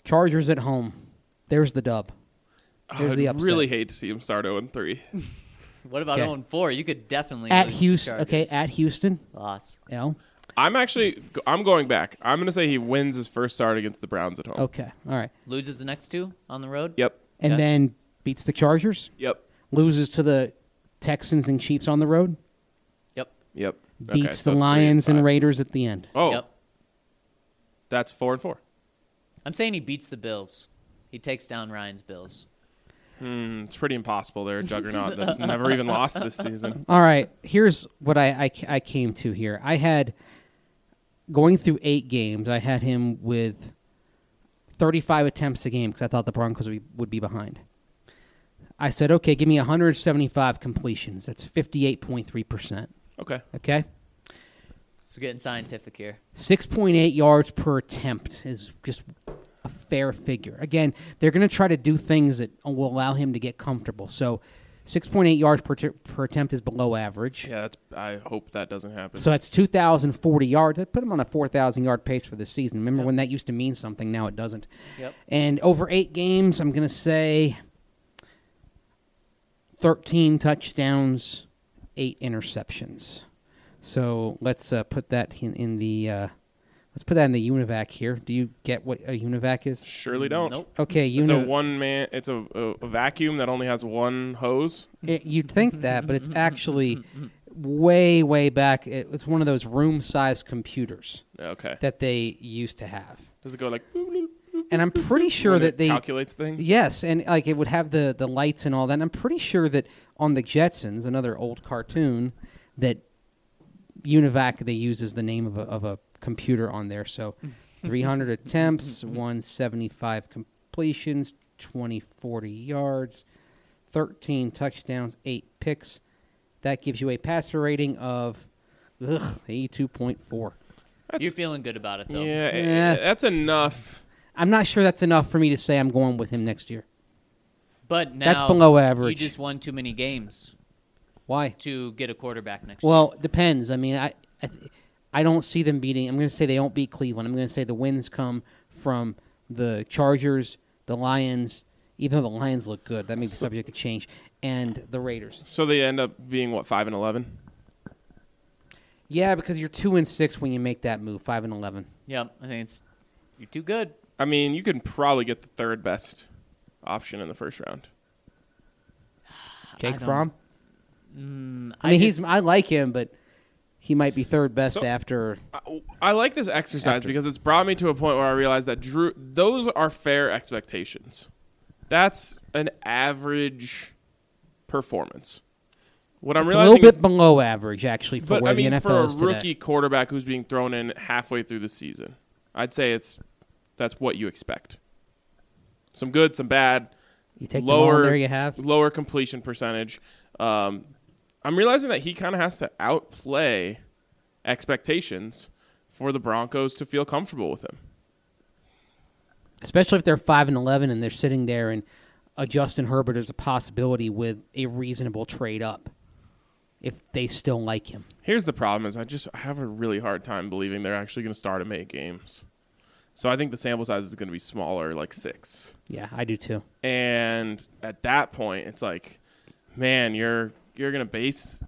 Chargers at home. There's the dub. There's I'd the upset. really hate to see him start oh and three. What about Okay. oh and four? You could definitely At lose to Houston. Chargers. Okay, at Houston. Loss. L. I'm actually I'm going back. I'm going to say he wins his first start against the Browns at home. Okay, all right. Loses the next two on the road. Yep. And Okay. then beats the Chargers. Yep. Loses to the Texans and Chiefs on the road. Yep. Yep. Beats Okay, the so three Lions and five. Raiders at the end. Oh, Yep. that's four and four. I'm saying he beats the Bills. He takes down Ryan's Bills. Hmm, it's pretty impossible. They're a juggernaut that's never even lost this season. All right, here's what I, I, I came to here. I had, going through eight games, I had him with thirty-five attempts a game because I thought the Broncos would be, would be behind. I said, okay, give me one hundred seventy-five completions. That's fifty-eight point three percent. Okay. Okay? So getting scientific here. six point eight yards per attempt is just a fair figure. Again, they're going to try to do things that will allow him to get comfortable. So six point eight yards per, t- per attempt is below average. Yeah, that's. I hope that doesn't happen. So that's two thousand forty yards. That put him on a four thousand yard pace for the season. Remember when that used to mean something? Now it doesn't. Yep. And over eight games, I'm going to say thirteen touchdowns, eight interceptions. So let's uh, put that in, in the uh, let's put that in the UNIVAC here. Do you get what a UNIVAC is? Surely don't. Nope. Okay, It's a uni- one man. It's a, a, a vacuum that only has one hose. it, you'd think that, but it's actually way, way back. It, it's one of those room-sized computers Okay. that they used to have. Does it go like? boop, boop, boop, And I'm pretty sure when that it they calculates things. Yes, and like it would have the, the lights and all that. And I'm pretty sure that on the Jetsons, another old cartoon, that UNIVAC they use as the name of a, of a computer on there. So three hundred attempts, one hundred seventy-five completions, twenty forty yards, thirteen touchdowns, eight picks. That gives you a passer rating of ugh, eighty-two point four. That's, You're feeling good about it, though. yeah, eh, Yeah. that's enough. I'm not sure that's enough for me to say I'm going with him next year. But now That's below average. You just won too many games Why? to get a quarterback next year. Well, it depends. I mean, I, I, I don't see them beating. I'm going to say they don't beat Cleveland. I'm going to say the wins come from the Chargers, the Lions. Even though the Lions look good, that may be subject to change, and the Raiders. So they end up being what, five and eleven? Yeah, because you're two and six when you make that move, five and eleven. Yep, I think it's you're too good. I mean, you can probably get the third best option in the first round. Jake don't- Fromm. Mm, I mean, just- he's I like him, but he might be third best So- after. I, I like this exercise After. because it's brought me to a point where I realize that Drew, those are fair expectations. That's an average performance. What I'm It's a realizing little bit is, below average, actually, for but where I mean, the N F for L a is today. rookie quarterback who's being thrown in halfway through the season, I'd say it's that's what you expect. Some good, some bad. You take the ball, lower, and there you have. lower completion percentage. Um, I'm realizing that he kind of has to outplay expectations for the Broncos to feel comfortable with him. Especially if they're five and eleven and they're sitting there and a Justin Herbert is a possibility with a reasonable trade up if they still like him. Here's the problem: is I just have a really hard time believing they're actually going to start him eight games. So I think the sample size is going to be smaller, like six. Yeah, I do too. And at that point, it's like, man, you're you're going to base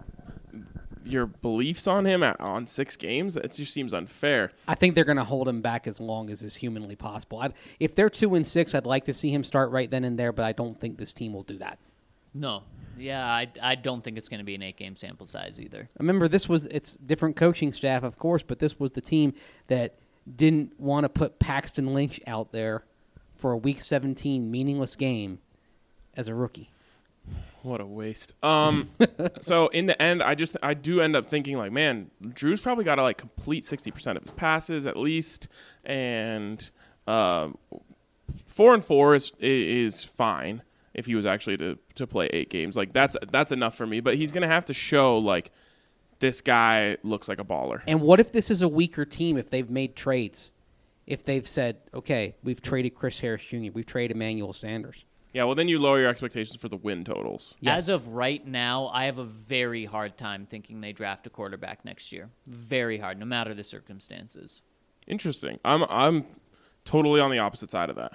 your beliefs on him at, on six games. It just seems unfair. I think they're going to hold him back as long as is humanly possible. I'd, if they're two and six, I'd like to see him start right then and there, but I don't think this team will do that. no. Yeah, I, I don't think it's going to be an eight-game sample size either. Remember, this was it's different coaching staff, of course, but this was the team that didn't want to put Paxton Lynch out there for a Week seventeen meaningless game as a rookie. What a waste. Um, so in the end, I just I do end up thinking like, man, Drew's probably got to like complete sixty percent of his passes at least, and um, four and four is is fine if he was actually to to play eight games. Like that's that's enough for me. But he's gonna have to show like this guy looks like a baller. And what if this is a weaker team if they've made trades? If they've said, okay, we've traded Chris Harris Junior, we've traded Emmanuel Sanders. Yeah, well then you lower your expectations for the win totals. Yes. As of right now, I have a very hard time thinking they draft a quarterback next year. Very hard, no matter the circumstances. Interesting. I'm I'm totally on the opposite side of that.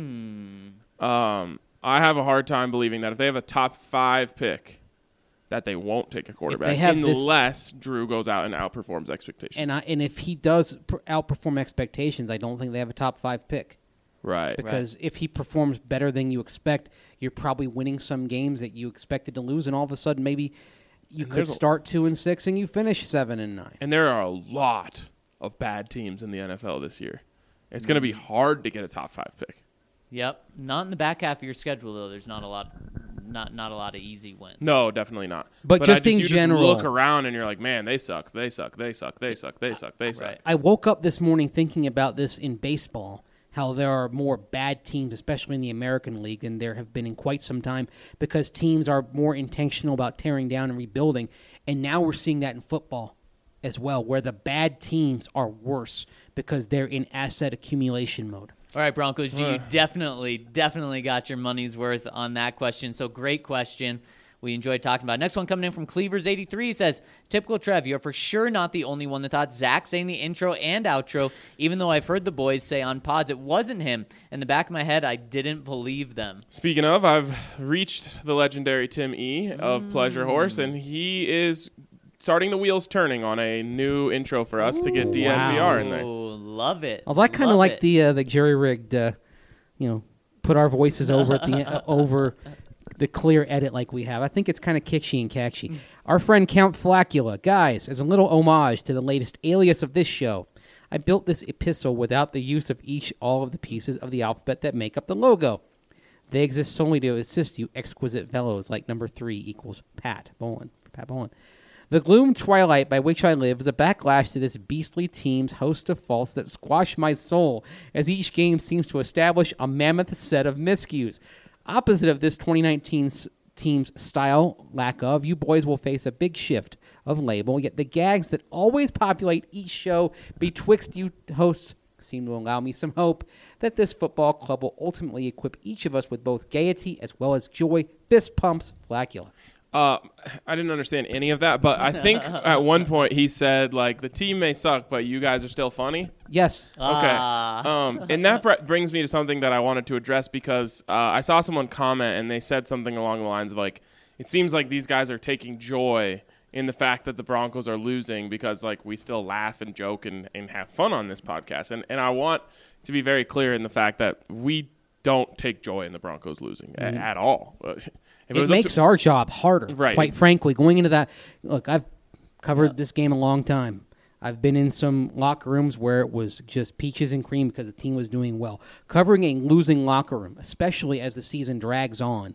Hmm. Um, I have a hard time believing that if they have a top five pick, that they won't take a quarterback have this- unless Drew goes out and outperforms expectations. And I, and if he does pr- outperform expectations, I don't think they have a top five pick. right. Because if he performs better than you expect, you're probably winning some games that you expected to lose, and all of a sudden maybe you And could there's a- start two and six and you finish seven and nine. And there are a lot of bad teams in the N F L this year. It's going to be hard to get a top five pick. Yep. Not in the back half of your schedule though. There's not a lot, not not a lot of easy wins. No, definitely not. But I just in you general- just look around and you're like, man, they suck, they suck, they suck, they suck, they suck, they suck. Right. I woke up this morning thinking about this in baseball, how there are more bad teams, especially in the American League, than there have been in quite some time because teams are more intentional about tearing down and rebuilding. And now we're seeing that in football as well, where the bad teams are worse because they're in asset accumulation mode. All right, Broncos G, you Uh. definitely, definitely got your money's worth on that question. So great question. We enjoyed talking about it. Next one coming in from Cleavers eighty-three says, typical Trev, you're for sure not the only one that thought Zach saying the intro and outro, even though I've heard the boys say on pods it wasn't him. In the back of my head, I didn't believe them. Speaking of, I've reached the legendary Tim E. of Mm. Pleasure Horse, and he is starting the wheels turning on a new intro for us to get D N V R in there. Oh, love it. Well, I kind of Love like it. the uh, the jerry rigged, uh, you know, put our voices over at the uh, over the clear edit like we have. I think it's kind of kitschy and catchy. Our friend Count Flacula, guys, as a little homage to the latest alias of this show, I built this epistle without the use of each all of the pieces of the alphabet that make up the logo. They exist solely to assist you exquisite fellows like number three equals Pat Bolin. Pat Bolin. The gloom twilight by which I live is a backlash to this beastly team's host of faults that squash my soul, as each game seems to establish a mammoth set of miscues. Opposite of this twenty nineteen team's style, lack of, you boys will face a big shift of label, yet the gags that always populate each show betwixt you hosts seem to allow me some hope that this football club will ultimately equip each of us with both gaiety as well as joy. Fist pumps, Flacula. Uh, I didn't understand any of that, but I think at one point he said, like, the team may suck, but you guys are still funny. Yes. Okay. Ah. Um, and that br- brings me to something that I wanted to address because uh, I saw someone comment and they said something along the lines of, like, it seems like these guys are taking joy in the fact that the Broncos are losing because, like, we still laugh and joke and, and have fun on this podcast. And, and I want to be very clear in the fact that we don't take joy in the Broncos losing a- at all. If It, was up makes to- our job harder, Right. quite frankly. Going into that, look, I've covered this game a long time. I've been in some locker rooms where it was just peaches and cream because the team was doing well. Covering a losing locker room, especially as the season drags on,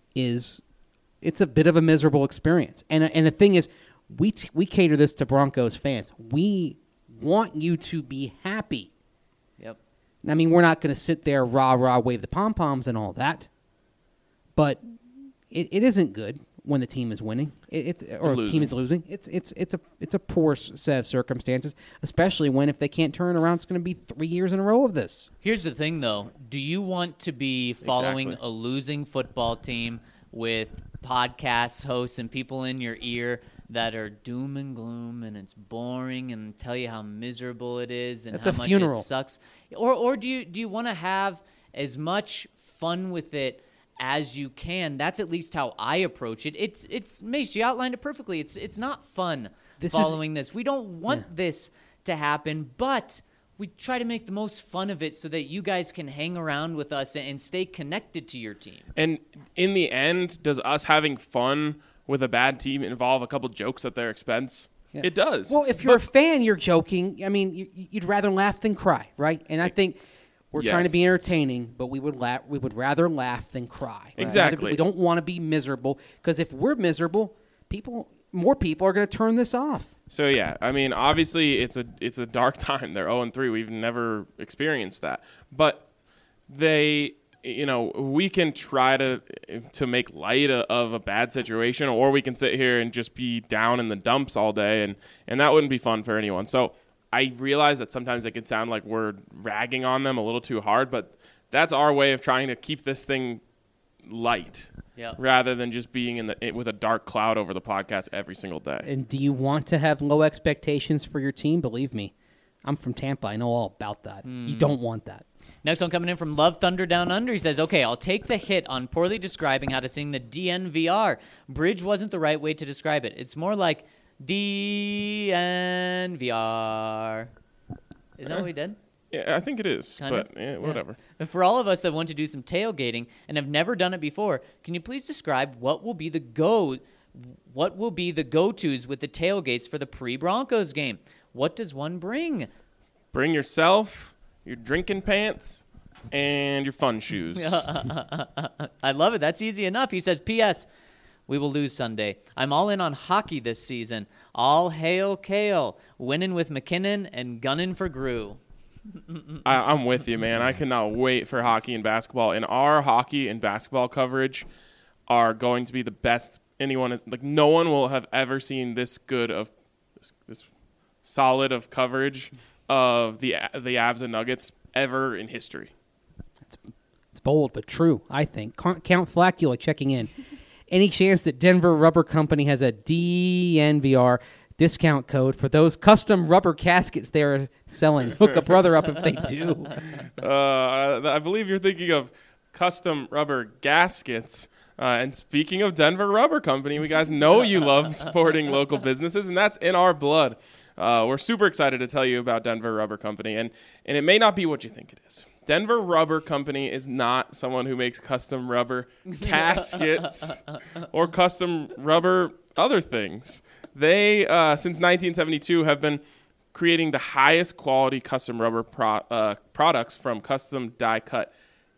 is it's a bit of a miserable experience. And and the thing is, we t- we cater this to Broncos fans. We want you to be happy. Yep. I mean, we're not going to sit there rah rah wave the pom poms and all that, but it, it isn't good when the team is winning. It, it's or the Losing. team is losing. It's it's it's a it's a poor s- set of circumstances, especially when if they can't turn around, it's going to be three years in a row of this. Here's the thing, though. Do you want to be following Exactly. a losing football team with podcast hosts and people in your ear that are doom and gloom and it's boring and tell you how miserable it is and That's how a much funeral. it sucks? Or or do you do you want to have as much fun with it as you can? That's at least how I approach it. It's it's Mace, you outlined it perfectly. It's it's not fun This is- following this. We don't want this to happen, but we try to make the most fun of it so that you guys can hang around with us and stay connected to your team. And in the end, does us having fun with a bad team involve a couple jokes at their expense? Yeah. It does. Well, if you're a fan, you're joking. I mean, you, you'd rather laugh than cry, right? And I think we're trying to be Yes. entertaining, but we would laugh. We would rather laugh than cry. We'd rather be- Exactly. we don't want to be miserable because if we're miserable, people, more people are going to turn this off. So yeah, I mean, obviously it's a it's a dark time. They're oh and three. We've never experienced that, but they, you know, we can try to to make light of, of a bad situation, or we can sit here and just be down in the dumps all day, and and that wouldn't be fun for anyone. So I realize that sometimes it could sound like we're ragging on them a little too hard, but that's our way of trying to keep this thing light. Yep. Rather than just being in the with a dark cloud over the podcast every single day. And do you want to have low expectations for your team? Believe me, I'm from Tampa. I know all about that. You don't want that. Next one coming in from Love Thunder Down Under. He says, okay, I'll take the hit on poorly describing how to sing the D N V R. Bridge wasn't the right way to describe it. It's more like D N V R. Is that what we did? Yeah, I think it is, Kind but of? eh, whatever. And for all of us that want to do some tailgating and have never done it before, can you please describe what will be the go what will be the go-tos with the tailgates for the pre-Broncos game? What does one bring? Bring yourself, your drinking pants, and your fun shoes. I love it. That's easy enough. He says, P S We will lose Sunday. I'm all in on hockey this season. All hail Kale. Winning with McKinnon and gunning for Grew. I, I'm with you, man. I cannot wait for hockey and basketball. And our hockey and basketball coverage are going to be the best anyone is. Like, no one will have ever seen this good of this, this solid of coverage of the the Avs and Nuggets ever in history. It's bold but true, I think. Count Flacula checking in. Any chance that Denver Rubber Company has a D N V R discount code for those custom rubber caskets they're selling? Hook a brother up if they do. Uh, I believe you're thinking of custom rubber gaskets. Uh, and speaking of Denver Rubber Company, we guys know you love supporting local businesses, and that's in our blood. Uh, we're super excited to tell you about Denver Rubber Company, and, and it may not be what you think it is. Denver Rubber Company is not someone who makes custom rubber caskets or custom rubber other things. They, uh, since nineteen seventy-two, have been creating the highest quality custom rubber pro- uh, products, from custom die-cut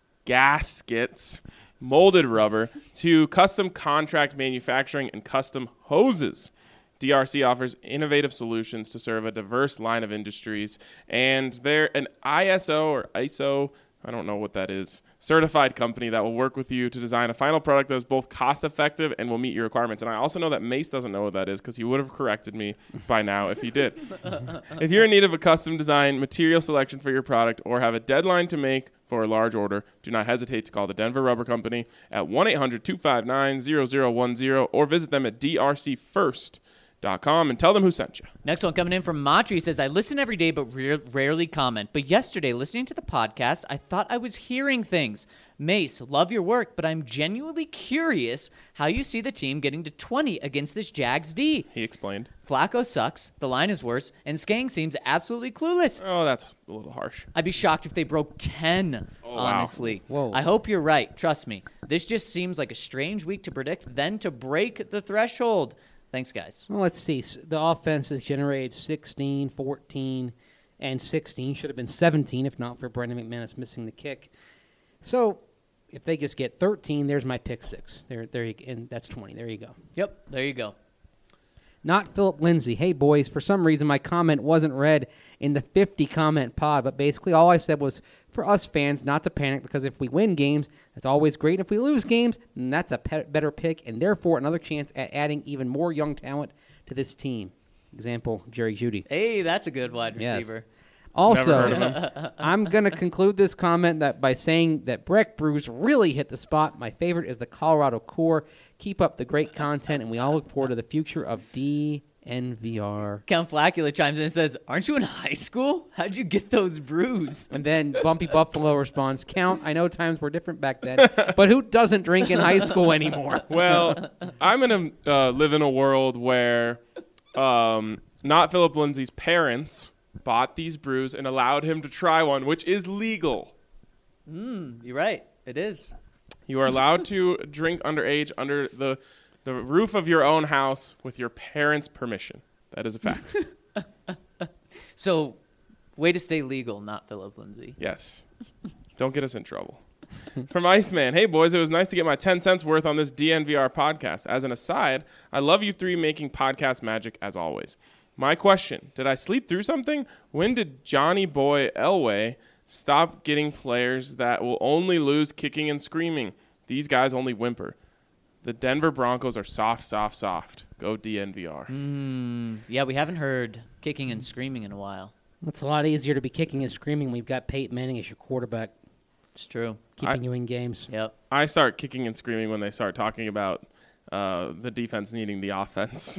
gaskets, molded rubber, to custom contract manufacturing and custom hoses. D R C offers innovative solutions to serve a diverse line of industries, and they're an I S O or I S O, I don't know what that is, certified company that will work with you to design a final product that is both cost-effective and will meet your requirements. And I also know that Mace doesn't know what that is because he would have corrected me by now if he did. If you're in need of a custom design, material selection for your product, or have a deadline to make for a large order, do not hesitate to call the Denver Rubber Company at one eight hundred two five nine zero zero one zero or visit them at d r c first dot com and tell them who sent you. Next one coming in from Matri says, I listen every day but re- rarely comment. But yesterday, listening to the podcast, I thought I was hearing things. Mace, love your work, but I'm genuinely curious how you see the team getting to twenty against this Jags D. He explained. Flacco sucks, the line is worse, and Skang seems absolutely clueless. Oh, that's a little harsh. I'd be shocked if they broke ten, Oh, wow. honestly. Whoa. I hope you're right. Trust me. This just seems like a strange week to predict, then to break the threshold. Thanks, guys. Well, let's see. S- The offense has generated sixteen, fourteen, and sixteen. Should have been seventeen if not for Brendan McManus missing the kick. So if they just get thirteen, there's my pick six. There, there, you, and that's twenty. There you go. Yep, there you go. Not Philip Lindsay. Hey, boys, for some reason my comment wasn't read in the fifty-comment pod, but basically all I said was for us fans not to panic, because if we win games, that's always great. If we lose games, then that's a pe- better pick, and therefore another chance at adding even more young talent to this team. Example, Jerry Jeudy. Hey, that's a good wide Yes. receiver. Also, Never heard of him. I'm going to conclude this comment that by saying that Breck Brews really hit the spot. My favorite is the Colorado Core. Keep up the great content, and we all look forward to the future of D N V R. Count Flacula chimes in and says, aren't you in high school? How'd you get those brews? And then Bumpy Buffalo responds, Count, I know times were different back then, but who doesn't drink in high school anymore? Well, I'm going to uh, live in a world where um, not Philip Lindsay's parents bought these brews and allowed him to try one, which is legal. Mm, you're right. It is. You are allowed to drink underage under the the roof of your own house with your parents' permission. That is a fact. So, way to stay legal, not Philip Lindsay. Yes. Don't get us in trouble. From Iceman, hey boys, it was nice to get my ten cents worth on this D N V R podcast. As an aside, I love you three making podcast magic as always. My question, did I sleep through something? When did Johnny Boy Elway stop getting players that will only lose kicking and screaming? These guys only whimper. The Denver Broncos are soft, soft, soft. Go D N V R. Mm, yeah, we haven't heard kicking and screaming in a while. It's a lot easier to be kicking and screaming. We've got Peyton Manning as your quarterback, It's true. keeping I- you in games. Yep. I start kicking and screaming when they start talking about uh, the defense needing the offense.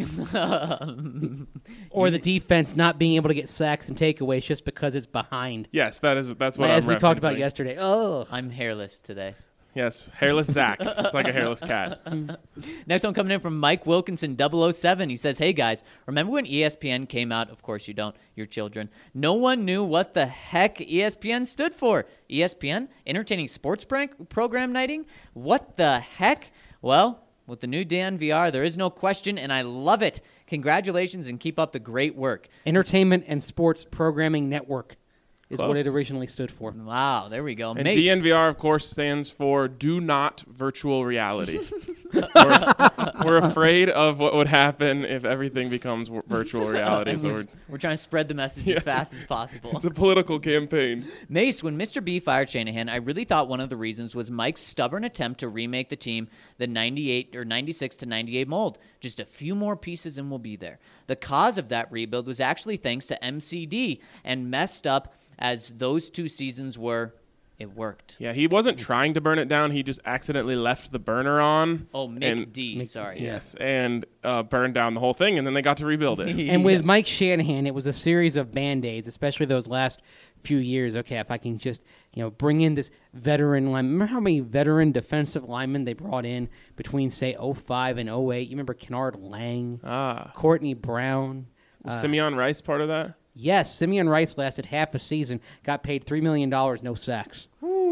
Or the defense not being able to get sacks and takeaways just because it's behind. Yes, that is that's what As I'm we talked about referencing. yesterday. Oh, I'm hairless today. Yes, hairless Zach. It's like a hairless cat. Next one coming in from Mike Wilkinson, double oh seven. He says, hey, guys, remember when E S P N came out? Of course you don't. You're children. No one knew what the heck E S P N stood for. E S P N? Entertaining Sports prank Program Nighting? What the heck? Well, with the new D N V R, there is no question, and I love it. Congratulations, and keep up the great work. Entertainment and Sports Programming Network is what Close. it originally stood for. Wow, there we go. And Mace. D N V R, of course, stands for Do Not Virtual Reality. we're, we're afraid of what would happen if everything becomes w- virtual reality. So we're, We're trying to spread the message Yeah. as fast as possible. it's a political campaign. Mace, when Mister B fired Shanahan, I really thought one of the reasons was Mike's stubborn attempt to remake the team the ninety-eight or ninety-six to ninety-eight mold. Just a few more pieces and we'll be there. The cause of that rebuild was actually thanks to M C D, and messed up as those two seasons were, it worked. Yeah, he wasn't trying to burn it down. He just accidentally left the burner on. Oh, Mick and- D, sorry. Yes, and uh, burned down the whole thing, and then they got to rebuild it. And with Mike Shanahan, it was a series of Band-Aids, especially those last few years. Okay, if I can just, you know, bring in this veteran lineman. Remember how many veteran defensive linemen they brought in between, say, oh five and oh eight? You remember Kennard Lang, Ah, Courtney Brown? was Simeon Rice part of that? Yes, Simeon Rice lasted half a season, got paid three million dollars, no sacks.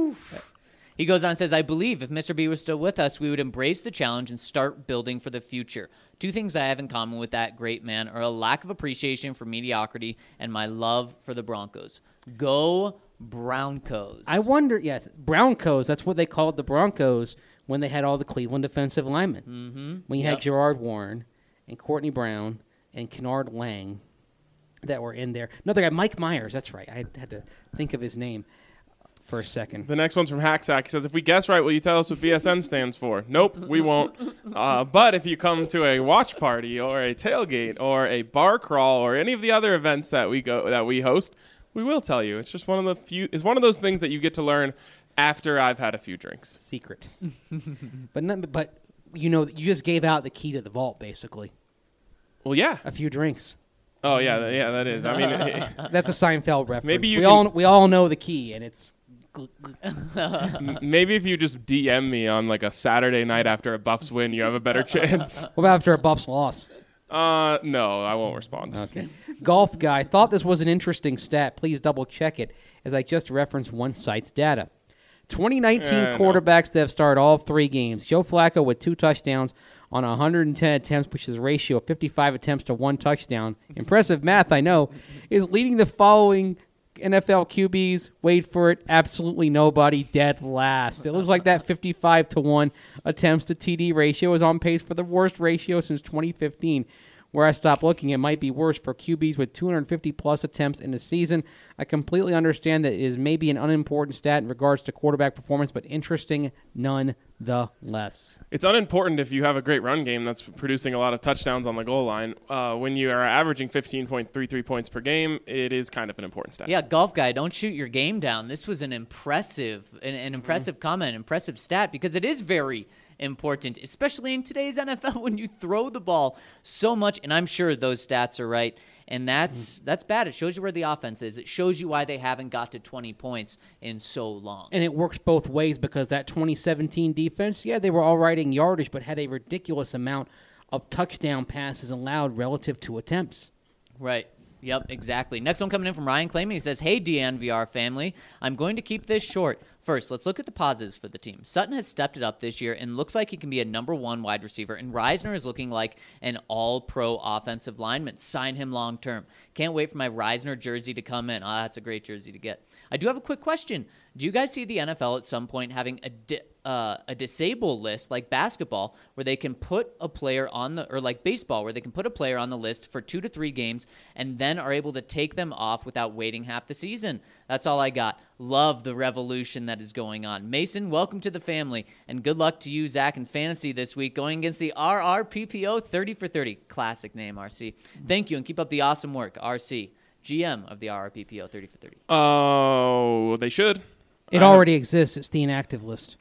He goes on and says, I believe if Mister B was still with us, we would embrace the challenge and start building for the future. Two things I have in common with that great man are a lack of appreciation for mediocrity and my love for the Broncos. Go Broncos. I wonder, yeah, Broncos, that's what they called the Broncos when they had all the Cleveland defensive linemen. Mm-hmm. When you Yep. had Gerard Warren and Courtney Brown and Kennard Lang that were in there. Another guy, Mike Myers, that's right. I had to think of his name for a second. The next one's from Hacksack. He says, if we guess right, will you tell us what B S N stands for? Nope, we won't. Uh, but if you come to a watch party or a tailgate or a bar crawl or any of the other events that we go that we host, we will tell you. It's just one of the few. It's one of those things that you get to learn after I've had a few drinks. Secret. but not, but you know, you just gave out the key to the vault, basically. Well, yeah. A few drinks. Oh, yeah, th- yeah. That is. I mean, it- That's a Seinfeld reference. Maybe you we can- all we all know the key, and it's m- maybe if you just D M me on like a Saturday night after a Buffs win, you have a better chance. what about after a Buffs loss? Uh, no, I won't respond. Okay. Golf guy thought this was an interesting stat. Please double check it, as I just referenced one site's data. twenty nineteen Yeah, I know. quarterbacks that have started all three games. Joe Flacco with two touchdowns on one hundred ten attempts, which is a ratio of fifty-five attempts to one touchdown. Impressive math, I know. Is leading the following N F L Q Bs. Wait for it. Absolutely nobody, dead last. It looks like that fifty-five to one attempts to T D ratio is on pace for the worst ratio since twenty fifteen. Where I stopped looking, it might be worse for Q Bs with two hundred fifty plus attempts in a season. I completely understand that it is maybe an unimportant stat in regards to quarterback performance, but interesting nonetheless. It's unimportant if you have a great run game that's producing a lot of touchdowns on the goal line. Uh, when you are averaging fifteen point three three points per game, it is kind of an important stat. Yeah, golf guy, don't shoot your game down. This was an impressive, an, an impressive Mm-hmm. comment, impressive stat, because it is very important, especially in today's N F L when you throw the ball so much. And I'm sure those stats are right. And that's Mm-hmm. that's bad. It shows you where the offense is. It shows you why they haven't got to twenty points in so long. And it works both ways because that twenty seventeen defense, yeah, they were all right in yardage, but had a ridiculous amount of touchdown passes allowed relative to attempts. Right. Yep, exactly. Next one coming in from Ryan Clayman. He says, hey, D N V R family, I'm going to keep this short. First, let's look at the positives for the team. Sutton has stepped it up this year and looks like he can be a number one wide receiver, and Reisner is looking like an all-pro offensive lineman. Sign him long-term. Can't wait for my Reisner jersey to come in. Oh, that's a great jersey to get. I do have a quick question. Do you guys see the N F L at some point having a di- uh, a disable list like basketball where they can put a player on the, or like baseball where they can put a player on the list for two to three games and then are able to take them off without waiting half the season? That's all I got. Love the revolution that is going on. Mason, welcome to the family, and good luck to you, Zach, in fantasy this week going against the R R P P O thirty for thirty. Classic name, R C. Thank you, and keep up the awesome work, R C, G M of the R R P P O thirty for thirty. Oh, they should. It I- already exists. It's the inactive list.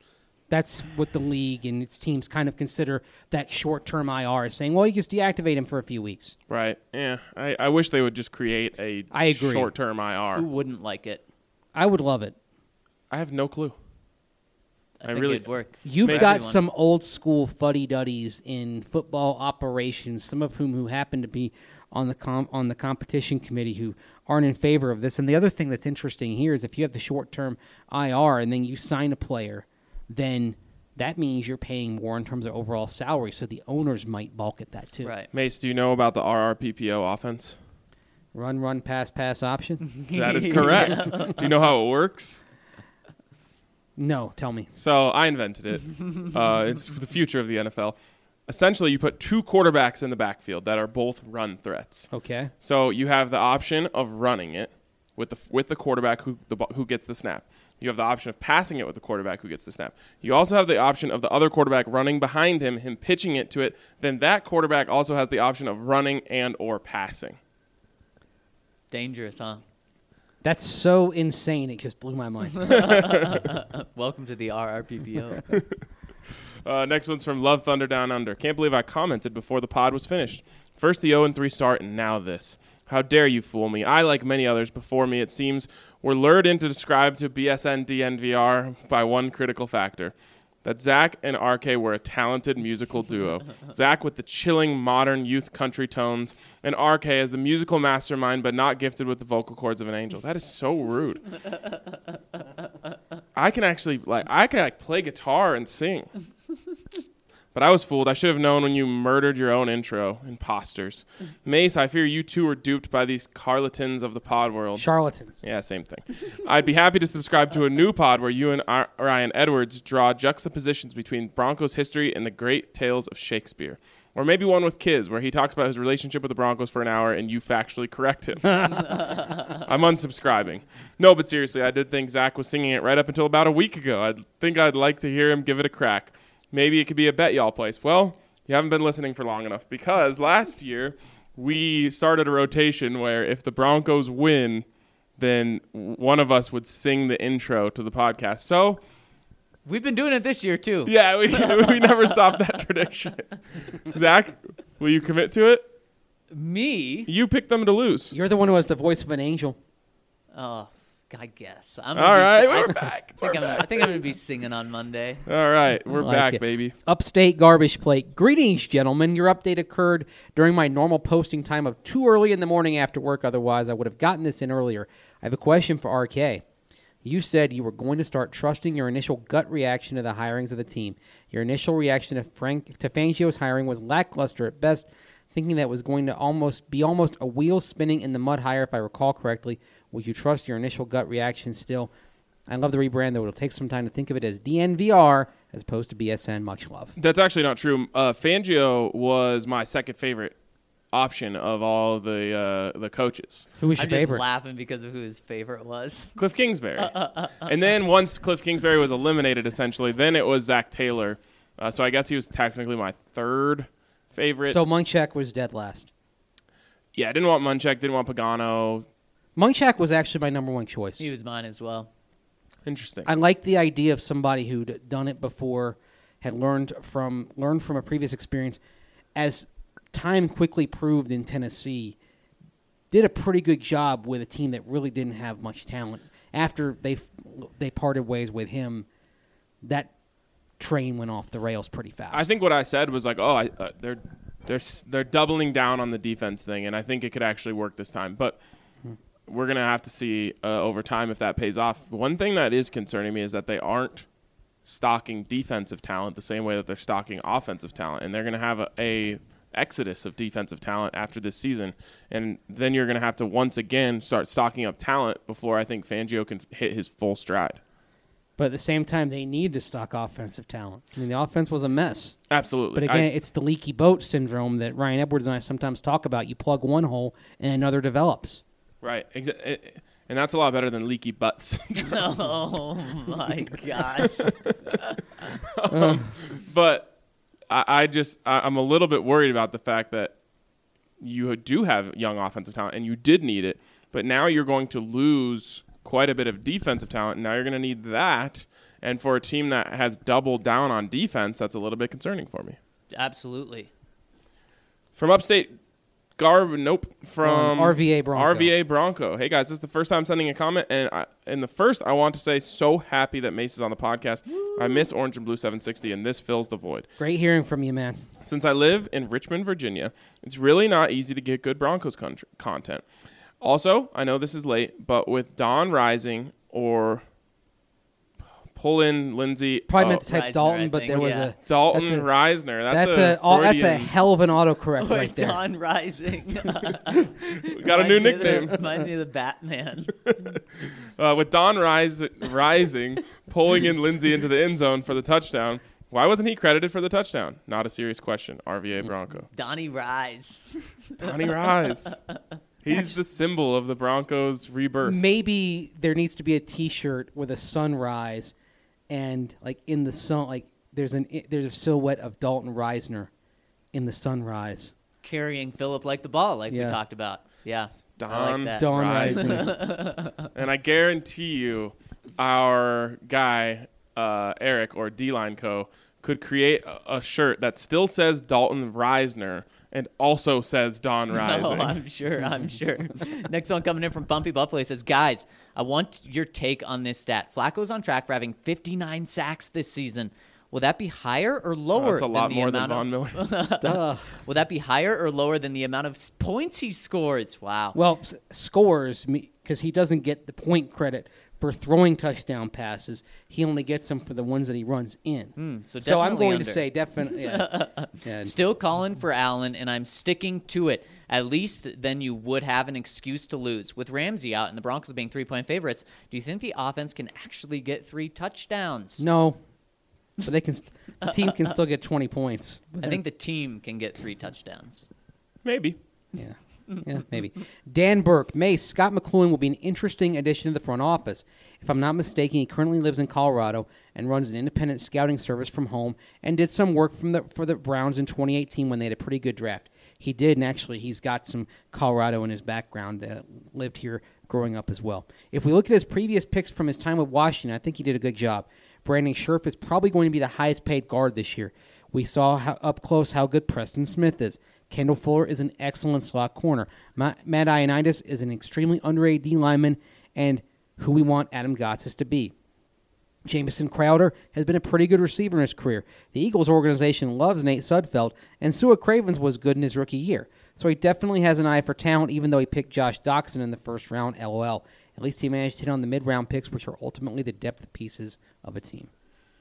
That's what the league and its teams kind of consider that short-term I R, saying, well, you just deactivate him for a few weeks. Right. Yeah. I, I wish they would just create a I agree. short-term I R. Who wouldn't like it? I would love it. I have no clue. I, I think really- it'd work. You've Makes got everyone. some old-school fuddy-duddies in football operations, some of whom who happen to be on the com- on the competition committee who aren't in favor of this. And the other thing that's interesting here is if you have the short-term I R and then you sign a player, then that means you're paying more in terms of overall salary, so the owners might balk at that too. Right. Mace, do you know about the R R P P O offense? Run, run, pass, pass option? That is correct. Do you know how it works? No, tell me. So I invented it. Uh, it's the future of the N F L. Essentially, you put two quarterbacks in the backfield that are both run threats. Okay. So you have the option of running it with the with the quarterback who the who gets the snap. You have the option of passing it with the quarterback who gets the snap. You also have the option of the other quarterback running behind him, him pitching it to it. Then that quarterback also has the option of running and or passing. Dangerous, huh? That's so insane, it just blew my mind. Welcome to the R R P P O. Uh, next one's from Love Thunder Down Under. Can't believe I commented before the pod was finished. First the oh and three start, and now this. How dare you fool me? I, like many others before me, it seems, were lured in to describe to B S N D N V R by one critical factor. That Zach and R K were a talented musical duo. Zach with the chilling modern youth country tones, and R K as the musical mastermind but not gifted with the vocal cords of an angel. That is so rude. I can actually, like, I can like, play guitar and sing. But I was fooled. I should have known when you murdered your own intro. Imposters. Mace, I fear you too were duped by these charlatans of the pod world. Charlatans. Yeah, same thing. I'd be happy to subscribe to a new pod where you and Ar- Ryan Edwards draw juxtapositions between Broncos history and the great tales of Shakespeare. Or maybe one with Kiz, where he talks about his relationship with the Broncos for an hour and you factually correct him. I'm unsubscribing. No, but seriously, I did think Zach was singing it right up until about a week ago. I think I'd like to hear him give it a crack. Maybe it could be a bet y'all place. Well, you haven't been listening for long enough because last year we started a rotation where if the Broncos win, then one of us would sing the intro to the podcast. So, We've been doing it this year, too. yeah, we we never stopped that tradition. Zach, will you commit to it? Me? You picked them to lose. You're the one who has the voice of an angel. Oh, I guess. I'm All gonna be right, si- we're I, back. I think, I'm, I think I'm going to be singing on Monday. All right, we're Like back, it. baby. Upstate Garbage Plate. Greetings, gentlemen. Your update occurred during my normal posting time of too early in the morning after work. Otherwise, I would have gotten this in earlier. I have a question for R K. You said you were going to start trusting your initial gut reaction to the hirings of the team. Your initial reaction to Frank to Fangio's hiring was lackluster at best, thinking that was going to almost be almost a wheel spinning in the mud hire, if I recall correctly. Would you trust your initial gut reaction still? I love the rebrand, though. It'll take some time to think of it as D N V R as opposed to B S N. Much love. That's actually not true. Uh, Fangio was my second favorite option of all the uh, the coaches. Who was your I'm just favorite? laughing because of who his favorite was. Cliff Kingsbury. And then once Cliff Kingsbury was eliminated, essentially, then it was Zach Taylor. Uh, so I guess he was technically my third favorite. So Munchak was dead last. yeah, I didn't want Munchak, didn't want Pagano. Munchak was actually my number one choice. He was mine as well. Interesting. I like the idea of somebody who'd done it before, had learned from learned from a previous experience. As time quickly proved in Tennessee, did a pretty good job with a team that really didn't have much talent. After they they parted ways with him, that train went off the rails pretty fast. I think what I said was like, oh, I, uh, they're they're s- they're doubling down on the defense thing, and I think it could actually work this time. But we're gonna have to see uh, over time if that pays off. One thing that is concerning me is that they aren't stocking defensive talent the same way that they're stocking offensive talent, and they're gonna have a, a exodus of defensive talent after this season, and then you're gonna have to once again start stocking up talent before I think Fangio can hit his full stride. But at the same time, they need to stock offensive talent. I mean, the offense was a mess. Absolutely. But again, I- it's the leaky boat syndrome that Ryan Edwards and I sometimes talk about. You plug one hole and another develops. right. Exa- it- and that's a lot better than leaky butts. Oh, my gosh. But I, I just I, I'm a little bit worried about the fact that you do have young offensive talent and you did need it, but now you're going to lose quite a bit of defensive talent. Now you're going to need that. And for a team that has doubled down on defense, that's a little bit concerning for me. Absolutely. From upstate, Garb, nope. From Um, R V A Bronco. R V A Bronco. Hey, guys, this is the first time sending a comment. And I, in the first, I want to say so happy that Mace is on the podcast. I miss Orange and Blue seven sixty, and this fills the void. Great hearing from you, man. Since I live in Richmond, Virginia, it's really not easy to get good Broncos con- content. Also, I know this is late, but with Don Rising or pull in Lindsay. Probably oh, meant to type Reisner, Dalton, I but think, there was yeah. a Dalton that's a- Reisner. That's, That's a, a, oh, that's a Freudian- hell of an autocorrect Or right there. Dawn Rising. We got a new Reminds me of the- nickname. Reminds me of the Batman. Uh, with Don Rise- Rising pulling in Lindsay into the end zone for the touchdown. Why wasn't he credited for the touchdown? Not a serious question. R V A Bronco. Donnie Rise. Donnie Rise. He's the symbol of the Broncos' rebirth. Maybe there needs to be a T-shirt with a sunrise, and like in the sun, like there's an there's a silhouette of Dalton Reisner in the sunrise. Carrying Philip like the ball, like Yeah. we talked about. Yeah. I Don like that. Dawn Rising. Rising. And I guarantee you, our guy, uh, Eric, or D-Line Co., could create a, a shirt that still says Dalton Reisner and also says Don Rising. Oh, I'm sure. I'm sure. Next one coming in from Bumpy Buffalo. He says, guys, I want your take on this stat. Flacco's on track for having fifty-nine sacks this season. Will that be higher or lower That's a than lot the more than amount Von of, Miller. Duh. Will that be higher or lower than the amount of s- points he scores? Wow. Well, s- scores because he doesn't get the point credit for throwing touchdown passes. He only gets them for the ones that he runs in. Mm, so so I'm definitely going under. to say definitely. Yeah. Yeah. Still calling for Allen, and I'm sticking to it. At least then you would have an excuse to lose. With Ramsey out and the Broncos being three-point favorites, do you think the offense can actually get three touchdowns? No, but they can. St- the team can still get twenty points. I think the team can get three touchdowns. Maybe. Yeah. Yeah, maybe. Dan Burke, Mace, Scott McLuhan will be an interesting addition to the front office. If I'm not mistaken, he currently lives in Colorado and runs an independent scouting service from home and did some work from the, for the Browns in twenty eighteen when they had a pretty good draft. He did, and actually he's got some Colorado in his background, uh, lived here growing up as well. If we look at his previous picks from his time with Washington, I think he did a good job. Brandon Scherf is probably going to be the highest paid guard this year. We saw how, up close how good Preston Smith is. Kendall Fuller is an excellent slot corner. Matt, Matt Ioannidis is an extremely underrated D lineman and who we want Adam Gotsis to be. Jamison Crowder has been a pretty good receiver in his career. The Eagles organization loves Nate Sudfeld, and Sua Cravens was good in his rookie year. So he definitely has an eye for talent, even though he picked Josh Doxson in the first round, LOL. At least he managed to hit on the mid-round picks, which are ultimately the depth pieces of a team.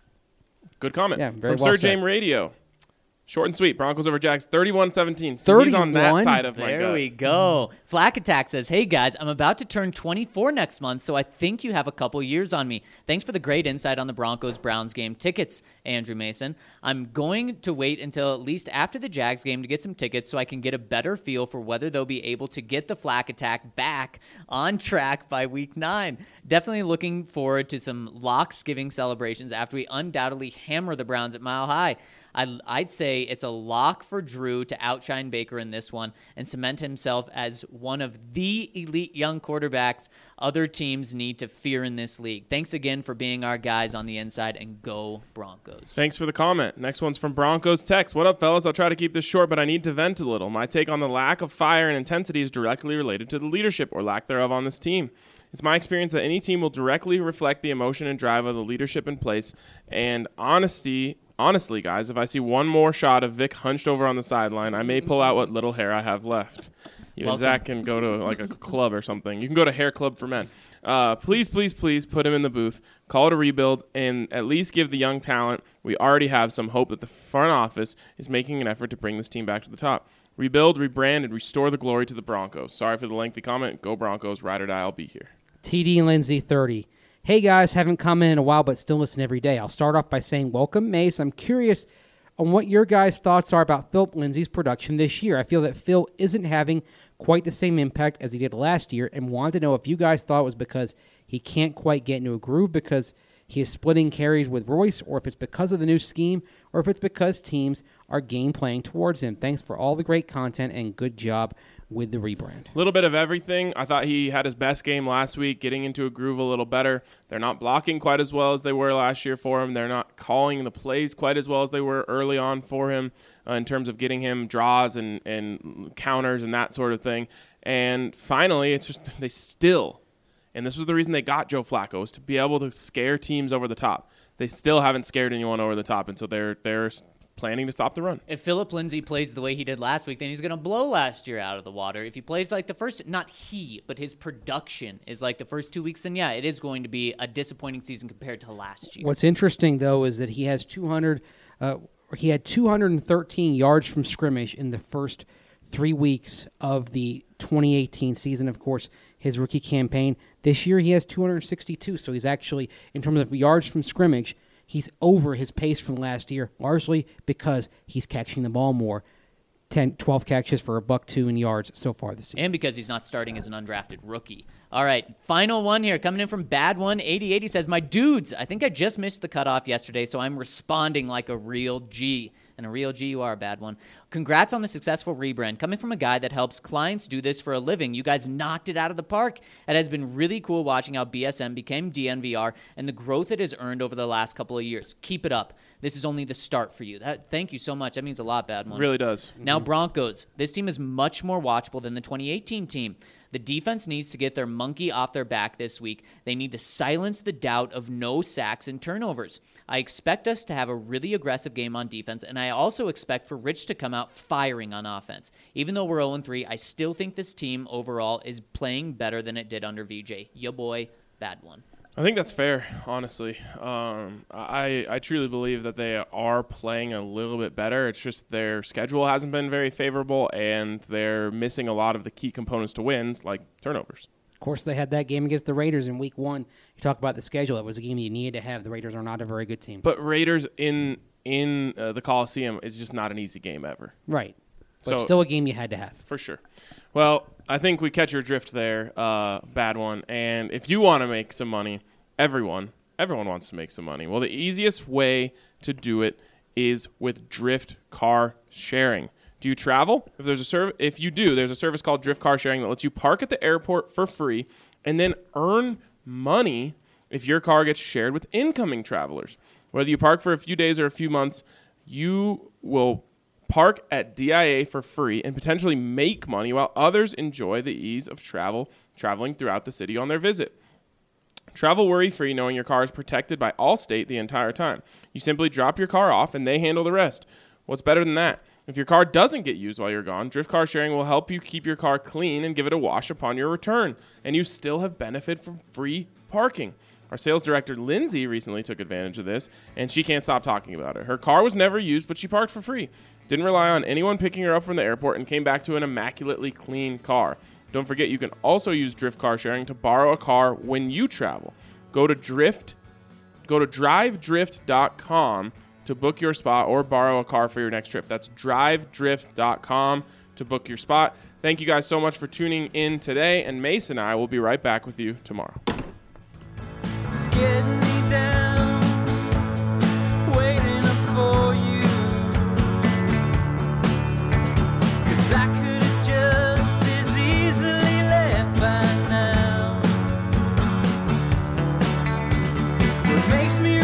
Good comment. Yeah, very From well Sir said. James Radio. Short and sweet. Broncos over Jags, thirty-one seventeen. So he's on that thirty-one? side of my There gut. we go. Flack Attack says, hey guys, I'm about to turn twenty-four next month, so I think you have a couple years on me. Thanks for the great insight on the Broncos-Browns game tickets, Andrew Mason. I'm going to wait until at least after the Jags game to get some tickets so I can get a better feel for whether they'll be able to get the Flack Attack back on track by week nine. Definitely looking forward to some locks-giving celebrations after we undoubtedly hammer the Browns at Mile High. I'd, I'd say it's a lock for Drew to outshine Baker in this one and cement himself as one of the elite young quarterbacks other teams need to fear in this league. Thanks again for being our guys on the inside, and go Broncos. Thanks for the comment. Next one's from Broncos Text. What up, fellas? I'll try to keep this short, but I need to vent a little. My take on the lack of fire and intensity is directly related to the leadership or lack thereof on this team. It's my experience that any team will directly reflect the emotion and drive of the leadership in place. And honesty, honestly, guys, if I see one more shot of Vic hunched over on the sideline, I may pull out what little hair I have left. You and Welcome. Zach can go to like a club or something. You can go to Hair Club for Men. Uh, please, please, please put him in the booth, call it a rebuild, and at least give the young talent we already have some hope that the front office is making an effort to bring this team back to the top. Rebuild, rebrand, and restore the glory to the Broncos. Sorry for the lengthy comment. Go Broncos. Ride or die. I'll be here. T D Lindsay, thirty. Hey, guys, haven't commented in a while, but still listen every day. I'll start off by saying welcome, Mace. I'm curious on what your guys' thoughts are about Philip Lindsay's production this year. I feel that Phil isn't having quite the same impact as he did last year, and wanted to know if you guys thought it was because he can't quite get into a groove because he is splitting carries with Royce, or if it's because of the new scheme, or if it's because teams are game playing towards him. Thanks for all the great content and good job with the rebrand? A little bit of everything. I thought he had his best game last week, getting into a groove a little better. They're not blocking quite as well as they were last year for him. They're not calling the plays quite as well as they were early on for him uh, in terms of getting him draws and, and counters and that sort of thing. And finally, it's just they still, and this was the reason they got Joe Flacco, is to be able to scare teams over the top. They still haven't scared anyone over the top, and so they're they're planning to stop the run. If Philip Lindsay plays the way he did last week, then he's going to blow last year out of the water. If he plays like the first, not he, but his production is like the first two weeks, then yeah, it is going to be a disappointing season compared to last year. What's interesting, though, is that he has two hundred, uh, he had two hundred thirteen yards from scrimmage in the first three weeks of the twenty eighteen season, of course, his rookie campaign. This year he has two hundred sixty-two, so he's actually, in terms of yards from scrimmage, he's over his pace from last year, largely because he's catching the ball more. ten, twelve catches for a buck two in yards so far this season. And because he's not starting as an undrafted rookie. All right, final one here. Coming in from Bad One eighty-eight, he says, my dudes, I think I just missed the cutoff yesterday, so I'm responding like a real G. And a real G, you are a bad one. Congrats on the successful rebrand. Coming from a guy that helps clients do this for a living, you guys knocked it out of the park. It has been really cool watching how B S M became D N V R and the growth it has earned over the last couple of years. Keep it up. This is only the start for you. That, thank you so much. That means a lot, Bad One. It really does. Now, Broncos. This team is much more watchable than the twenty eighteen team. The defense needs to get their monkey off their back this week. They need to silence the doubt of no sacks and turnovers. I expect us to have a really aggressive game on defense, and I also expect for Rich to come out firing on offense. Even though we're oh and three, I still think this team overall is playing better than it did under V J. Ya boy, Bad One. I think that's fair, honestly. Um, I I truly believe that they are playing a little bit better. It's just their schedule hasn't been very favorable, and they're missing a lot of the key components to wins, like turnovers. Of course, they had that game against the Raiders in week one. You talk about the schedule. It was a game you needed to have. The Raiders are not a very good team. But Raiders in in uh, the Coliseum is just not an easy game ever. Right. But So- still a game you had to have. For sure. Well, I think we catch your drift there, uh, Bad One. And if you want to make some money, everyone, everyone wants to make some money. Well, the easiest way to do it is with Drift Car Sharing. Do you travel? If there's a serv- if you do, there's a service called Drift Car Sharing that lets you park at the airport for free and then earn money if your car gets shared with incoming travelers. Whether you park for a few days or a few months, you will park at D I A for free and potentially make money while others enjoy the ease of travel traveling throughout the city on their visit. Travel worry-free knowing your car is protected by Allstate the entire time. You simply drop your car off and they handle the rest. What's better than that? If your car doesn't get used while you're gone, Drift Car Sharing will help you keep your car clean and give it a wash upon your return, and you still have benefit from free parking. Our sales director, Lindsay, recently took advantage of this, and she can't stop talking about it. Her car was never used, but she parked for free. Didn't rely on anyone picking her up from the airport and came back to an immaculately clean car. Don't forget, you can also use Drift Car Sharing to borrow a car when you travel. Go to Drift, go to drive drift dot com to book your spot or borrow a car for your next trip. That's drive drift dot com to book your spot. Thank you guys so much for tuning in today, and Mason and I will be right back with you tomorrow. It's getting me down, waiting up for you. 'Cause I could have just as easily left by now. What makes me